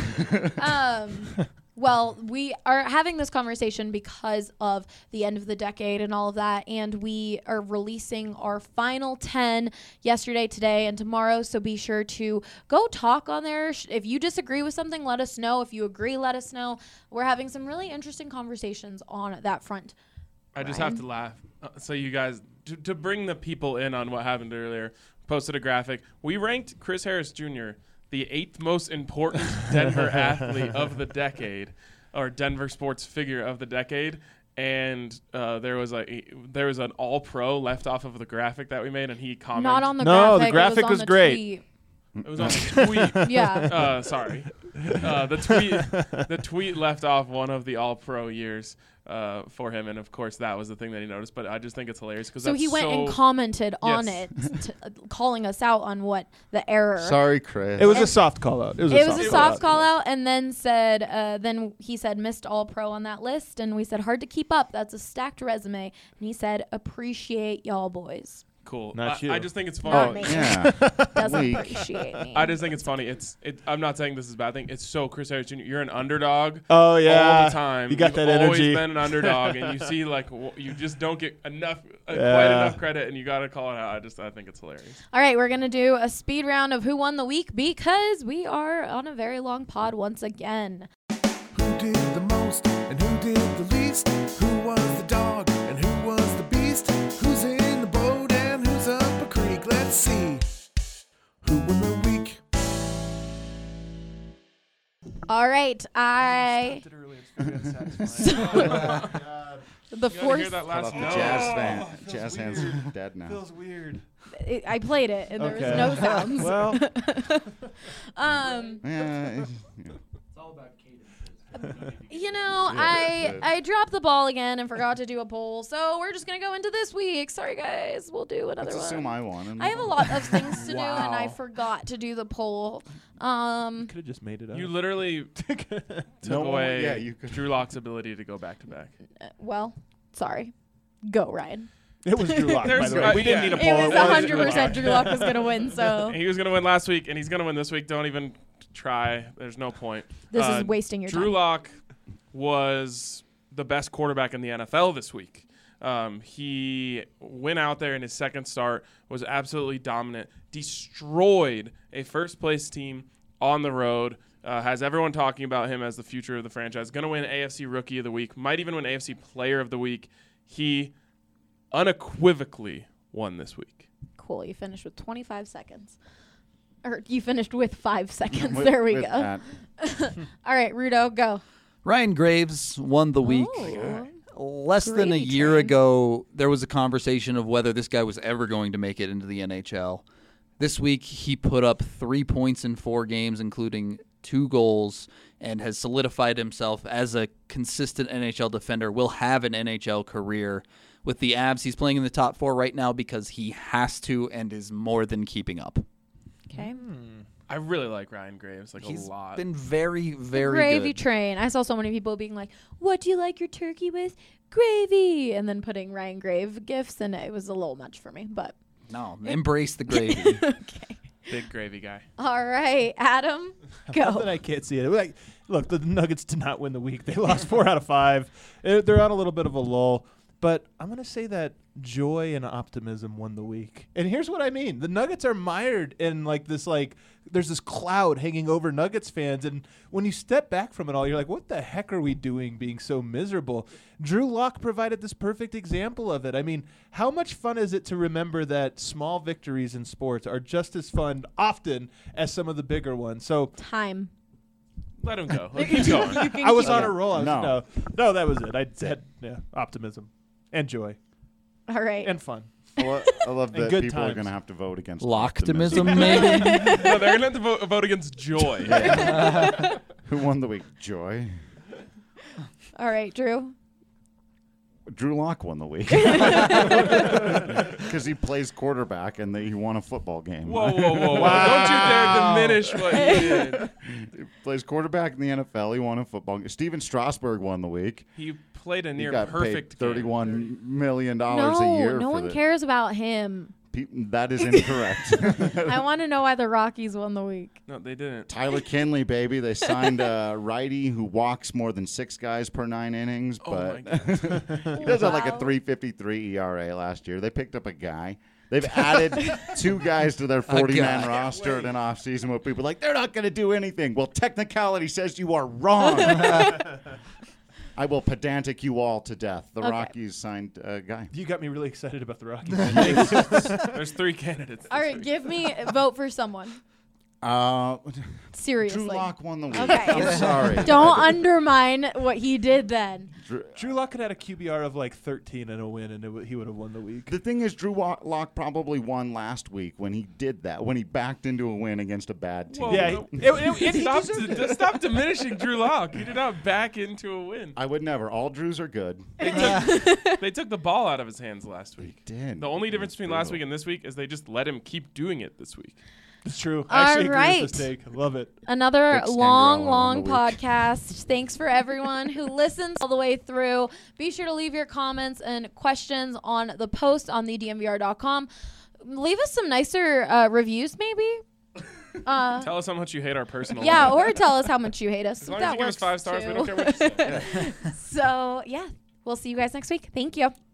S1: Well, we are having this conversation because of the end of the decade and all of that, and we are releasing our final 10 yesterday, today, and tomorrow, so be sure to go talk on there. If you disagree with something, let us know. If you agree, let us know. We're having some really interesting conversations on that front.
S3: I just have to laugh. So you guys, to bring the people in on what happened earlier, posted a graphic. We ranked Chris Harris Jr. the 8th most important Denver athlete of the decade, or Denver sports figure of the decade. And there was an All-Pro left off of the graphic that we made, and he commented.
S1: Not on the graphic.
S2: No, the graphic was great.
S1: Tweet.
S3: It was on the tweet.
S1: Yeah.
S3: Sorry. The tweet left off one of the All-Pro years for him, and of course that was the thing that he noticed. But I just think it's hilarious because
S1: so he went and commented on it, calling us out on what the error.
S6: Sorry, Chris.
S2: It was a soft call out.
S1: It was a soft call out, and then then he said missed All-Pro on that list, and we said hard to keep up. That's a stacked resume, and he said appreciate y'all boys.
S3: Cool.
S2: Not you.
S3: I just think it's funny.
S6: Yeah.
S1: Doesn't appreciate me.
S3: I just think it's funny. I'm not saying this is a bad thing. It's so Chris Harris Jr. You're an underdog.
S2: Oh yeah.
S3: All the time.
S2: You got
S3: You've
S2: that
S3: always
S2: energy.
S3: been an underdog, and you see you just don't get quite enough credit, and you got to call it out. I think it's hilarious.
S1: All right, we're gonna do a speed round of who won the week because we are on a very long pod once again.
S12: Who did the most and who did the least? Who was the dog and who was the beast? Who's in the boat and who's up a creek? Let's see. Who won the week?
S1: All right, the fourth.
S3: Hear that last note?
S6: Jazz hands are dead now.
S2: Feels weird.
S1: I played it and there was
S2: Okay.
S1: no sounds.
S2: Well,
S6: Yeah.
S1: I dropped the ball again and forgot to do a poll, so we're just gonna go into this week. Sorry guys, we'll do another
S6: Let's
S1: one.
S6: assume I won.
S1: I have a lot of things to do,
S2: Wow.
S1: and I forgot to do the poll.
S2: could have just made it up.
S3: You literally took
S6: No,
S3: away
S6: yeah, you could-
S3: Drew Lock's ability to go back to back.
S1: Well, sorry. Go, Ryan.
S2: It was Drew Lock, by
S3: There's-
S2: the way. We didn't
S3: yeah.
S2: need a
S1: It
S2: poll.
S1: was
S2: It was
S1: 100% Drew Lock was gonna win. So
S3: He was going to win last week, and he's going to win this week. Don't even try. There's no point.
S1: this is wasting your
S3: Drew
S1: time.
S3: Lock was the best quarterback in the NFL this week. He went out there in his second start, was absolutely dominant, destroyed a first-place team on the road, has everyone talking about him as the future of the franchise, going to win AFC Rookie of the Week, might even win AFC Player of the Week. He unequivocally won this week.
S1: Cool. You finished with 25 seconds. Or you finished with 5 seconds.
S6: With-
S1: there we
S6: with
S1: go.
S6: that.
S1: All right, Rudo, go.
S4: Ryan Graves won the week.
S1: Oh.
S4: Less than a
S1: Gravy
S4: year
S1: train.
S4: ago, there was a conversation of whether this guy was ever going to make it into the NHL. This week, he put up 3 points in 4 games, including 2 goals, and has solidified himself as a consistent NHL defender, will have an NHL career. With the Avs, he's playing in the top 4 right now because he has to and is more than keeping up.
S1: Okay.
S3: I really like Ryan Graves
S4: He's
S3: a lot.
S4: been very, very
S1: Gravy
S4: good.
S1: train. I saw so many people being like, "What do you like your turkey with? Gravy," and then putting Ryan Grave gifts, and it was a little much for me. But
S4: No, embrace the gravy.
S1: okay.
S3: Big gravy guy.
S1: All right, Adam,
S2: Not that
S1: go.
S2: I can't see it. Like, look, the Nuggets did not win the week. They lost 4 out of 5. They're on a little bit of a lull. But I'm going to say that joy and optimism won the week. And here's what I mean. The Nuggets are mired in there's this cloud hanging over Nuggets fans. And when you step back from it all, you're like, what the heck are we doing being so miserable? Drew Lock provided this perfect example of it. I mean, how much fun is it to remember that small victories in sports are just as fun often as some of the bigger ones? So
S1: Time.
S3: Let him go. Keep going.
S2: I was on a roll.
S6: No.
S2: No, that was it. I said optimism and joy
S1: All right.
S2: and fun.
S6: I love
S2: And
S6: that
S2: good
S6: people are
S2: times.
S6: going to have to vote against
S4: Locktimism, maybe?
S3: No, they're going to have to vote against joy.
S6: Who won the week? Joy.
S1: All right, Drew.
S6: Drew Lock won the week because he plays quarterback and he won a football game.
S3: Whoa. Don't you dare diminish what he did.
S6: He plays quarterback in the NFL. He won a football game. Steven Strasburg won the week.
S3: He played a
S6: He
S3: near
S6: got
S3: perfect
S6: paid
S3: game.
S6: $31 million a year.
S1: No one cares about him.
S6: That is incorrect.
S1: I want to know why the Rockies won the week.
S3: No, they didn't.
S6: Tyler Kinley, baby. They signed a righty who walks more than 6 guys per 9 innings, but he does have like a 3.53 ERA last year. They picked up a guy. They've added 2 guys to their 40-man roster in an offseason where people are like, they're not going to do anything. Well, technicality says you are wrong. I will pedantic you all to death. The Rockies signed a guy.
S2: You got me really excited about the Rockies.
S3: There's 3 candidates.
S1: All right, vote for someone. Seriously.
S6: Drew Lock won the week.
S1: Okay.
S6: I'm sorry.
S1: Don't undermine what he did then.
S2: Drew Lock could have had a QBR of like 13 and a win, and he would have won the week.
S6: The thing is, Drew Lock probably won last week when he did that, when he backed into a win against a bad team.
S3: Whoa, stop diminishing Drew Lock. He did not back into a win.
S6: I would never. All Drews are good.
S3: They took the ball out of his hands last week.
S6: They did.
S3: The only difference between last week and this week is they just let him keep doing it this week.
S2: It's true. I actually agree
S1: right.
S2: with this take. I love it.
S1: Another
S6: Big
S1: long
S6: on the week.
S1: podcast. Thanks for everyone who listens all the way through. Be sure to leave your comments and questions on the post on thedmvr.com. Leave us some nicer reviews, maybe.
S3: Tell us how much you hate our personal
S1: Yeah,
S3: life.
S1: or tell us how much you hate us.
S3: As long
S1: that
S3: as you give us
S1: works
S3: 5 stars,
S1: too.
S3: we don't care what you say.
S1: So, yeah. We'll see you guys next week. Thank you.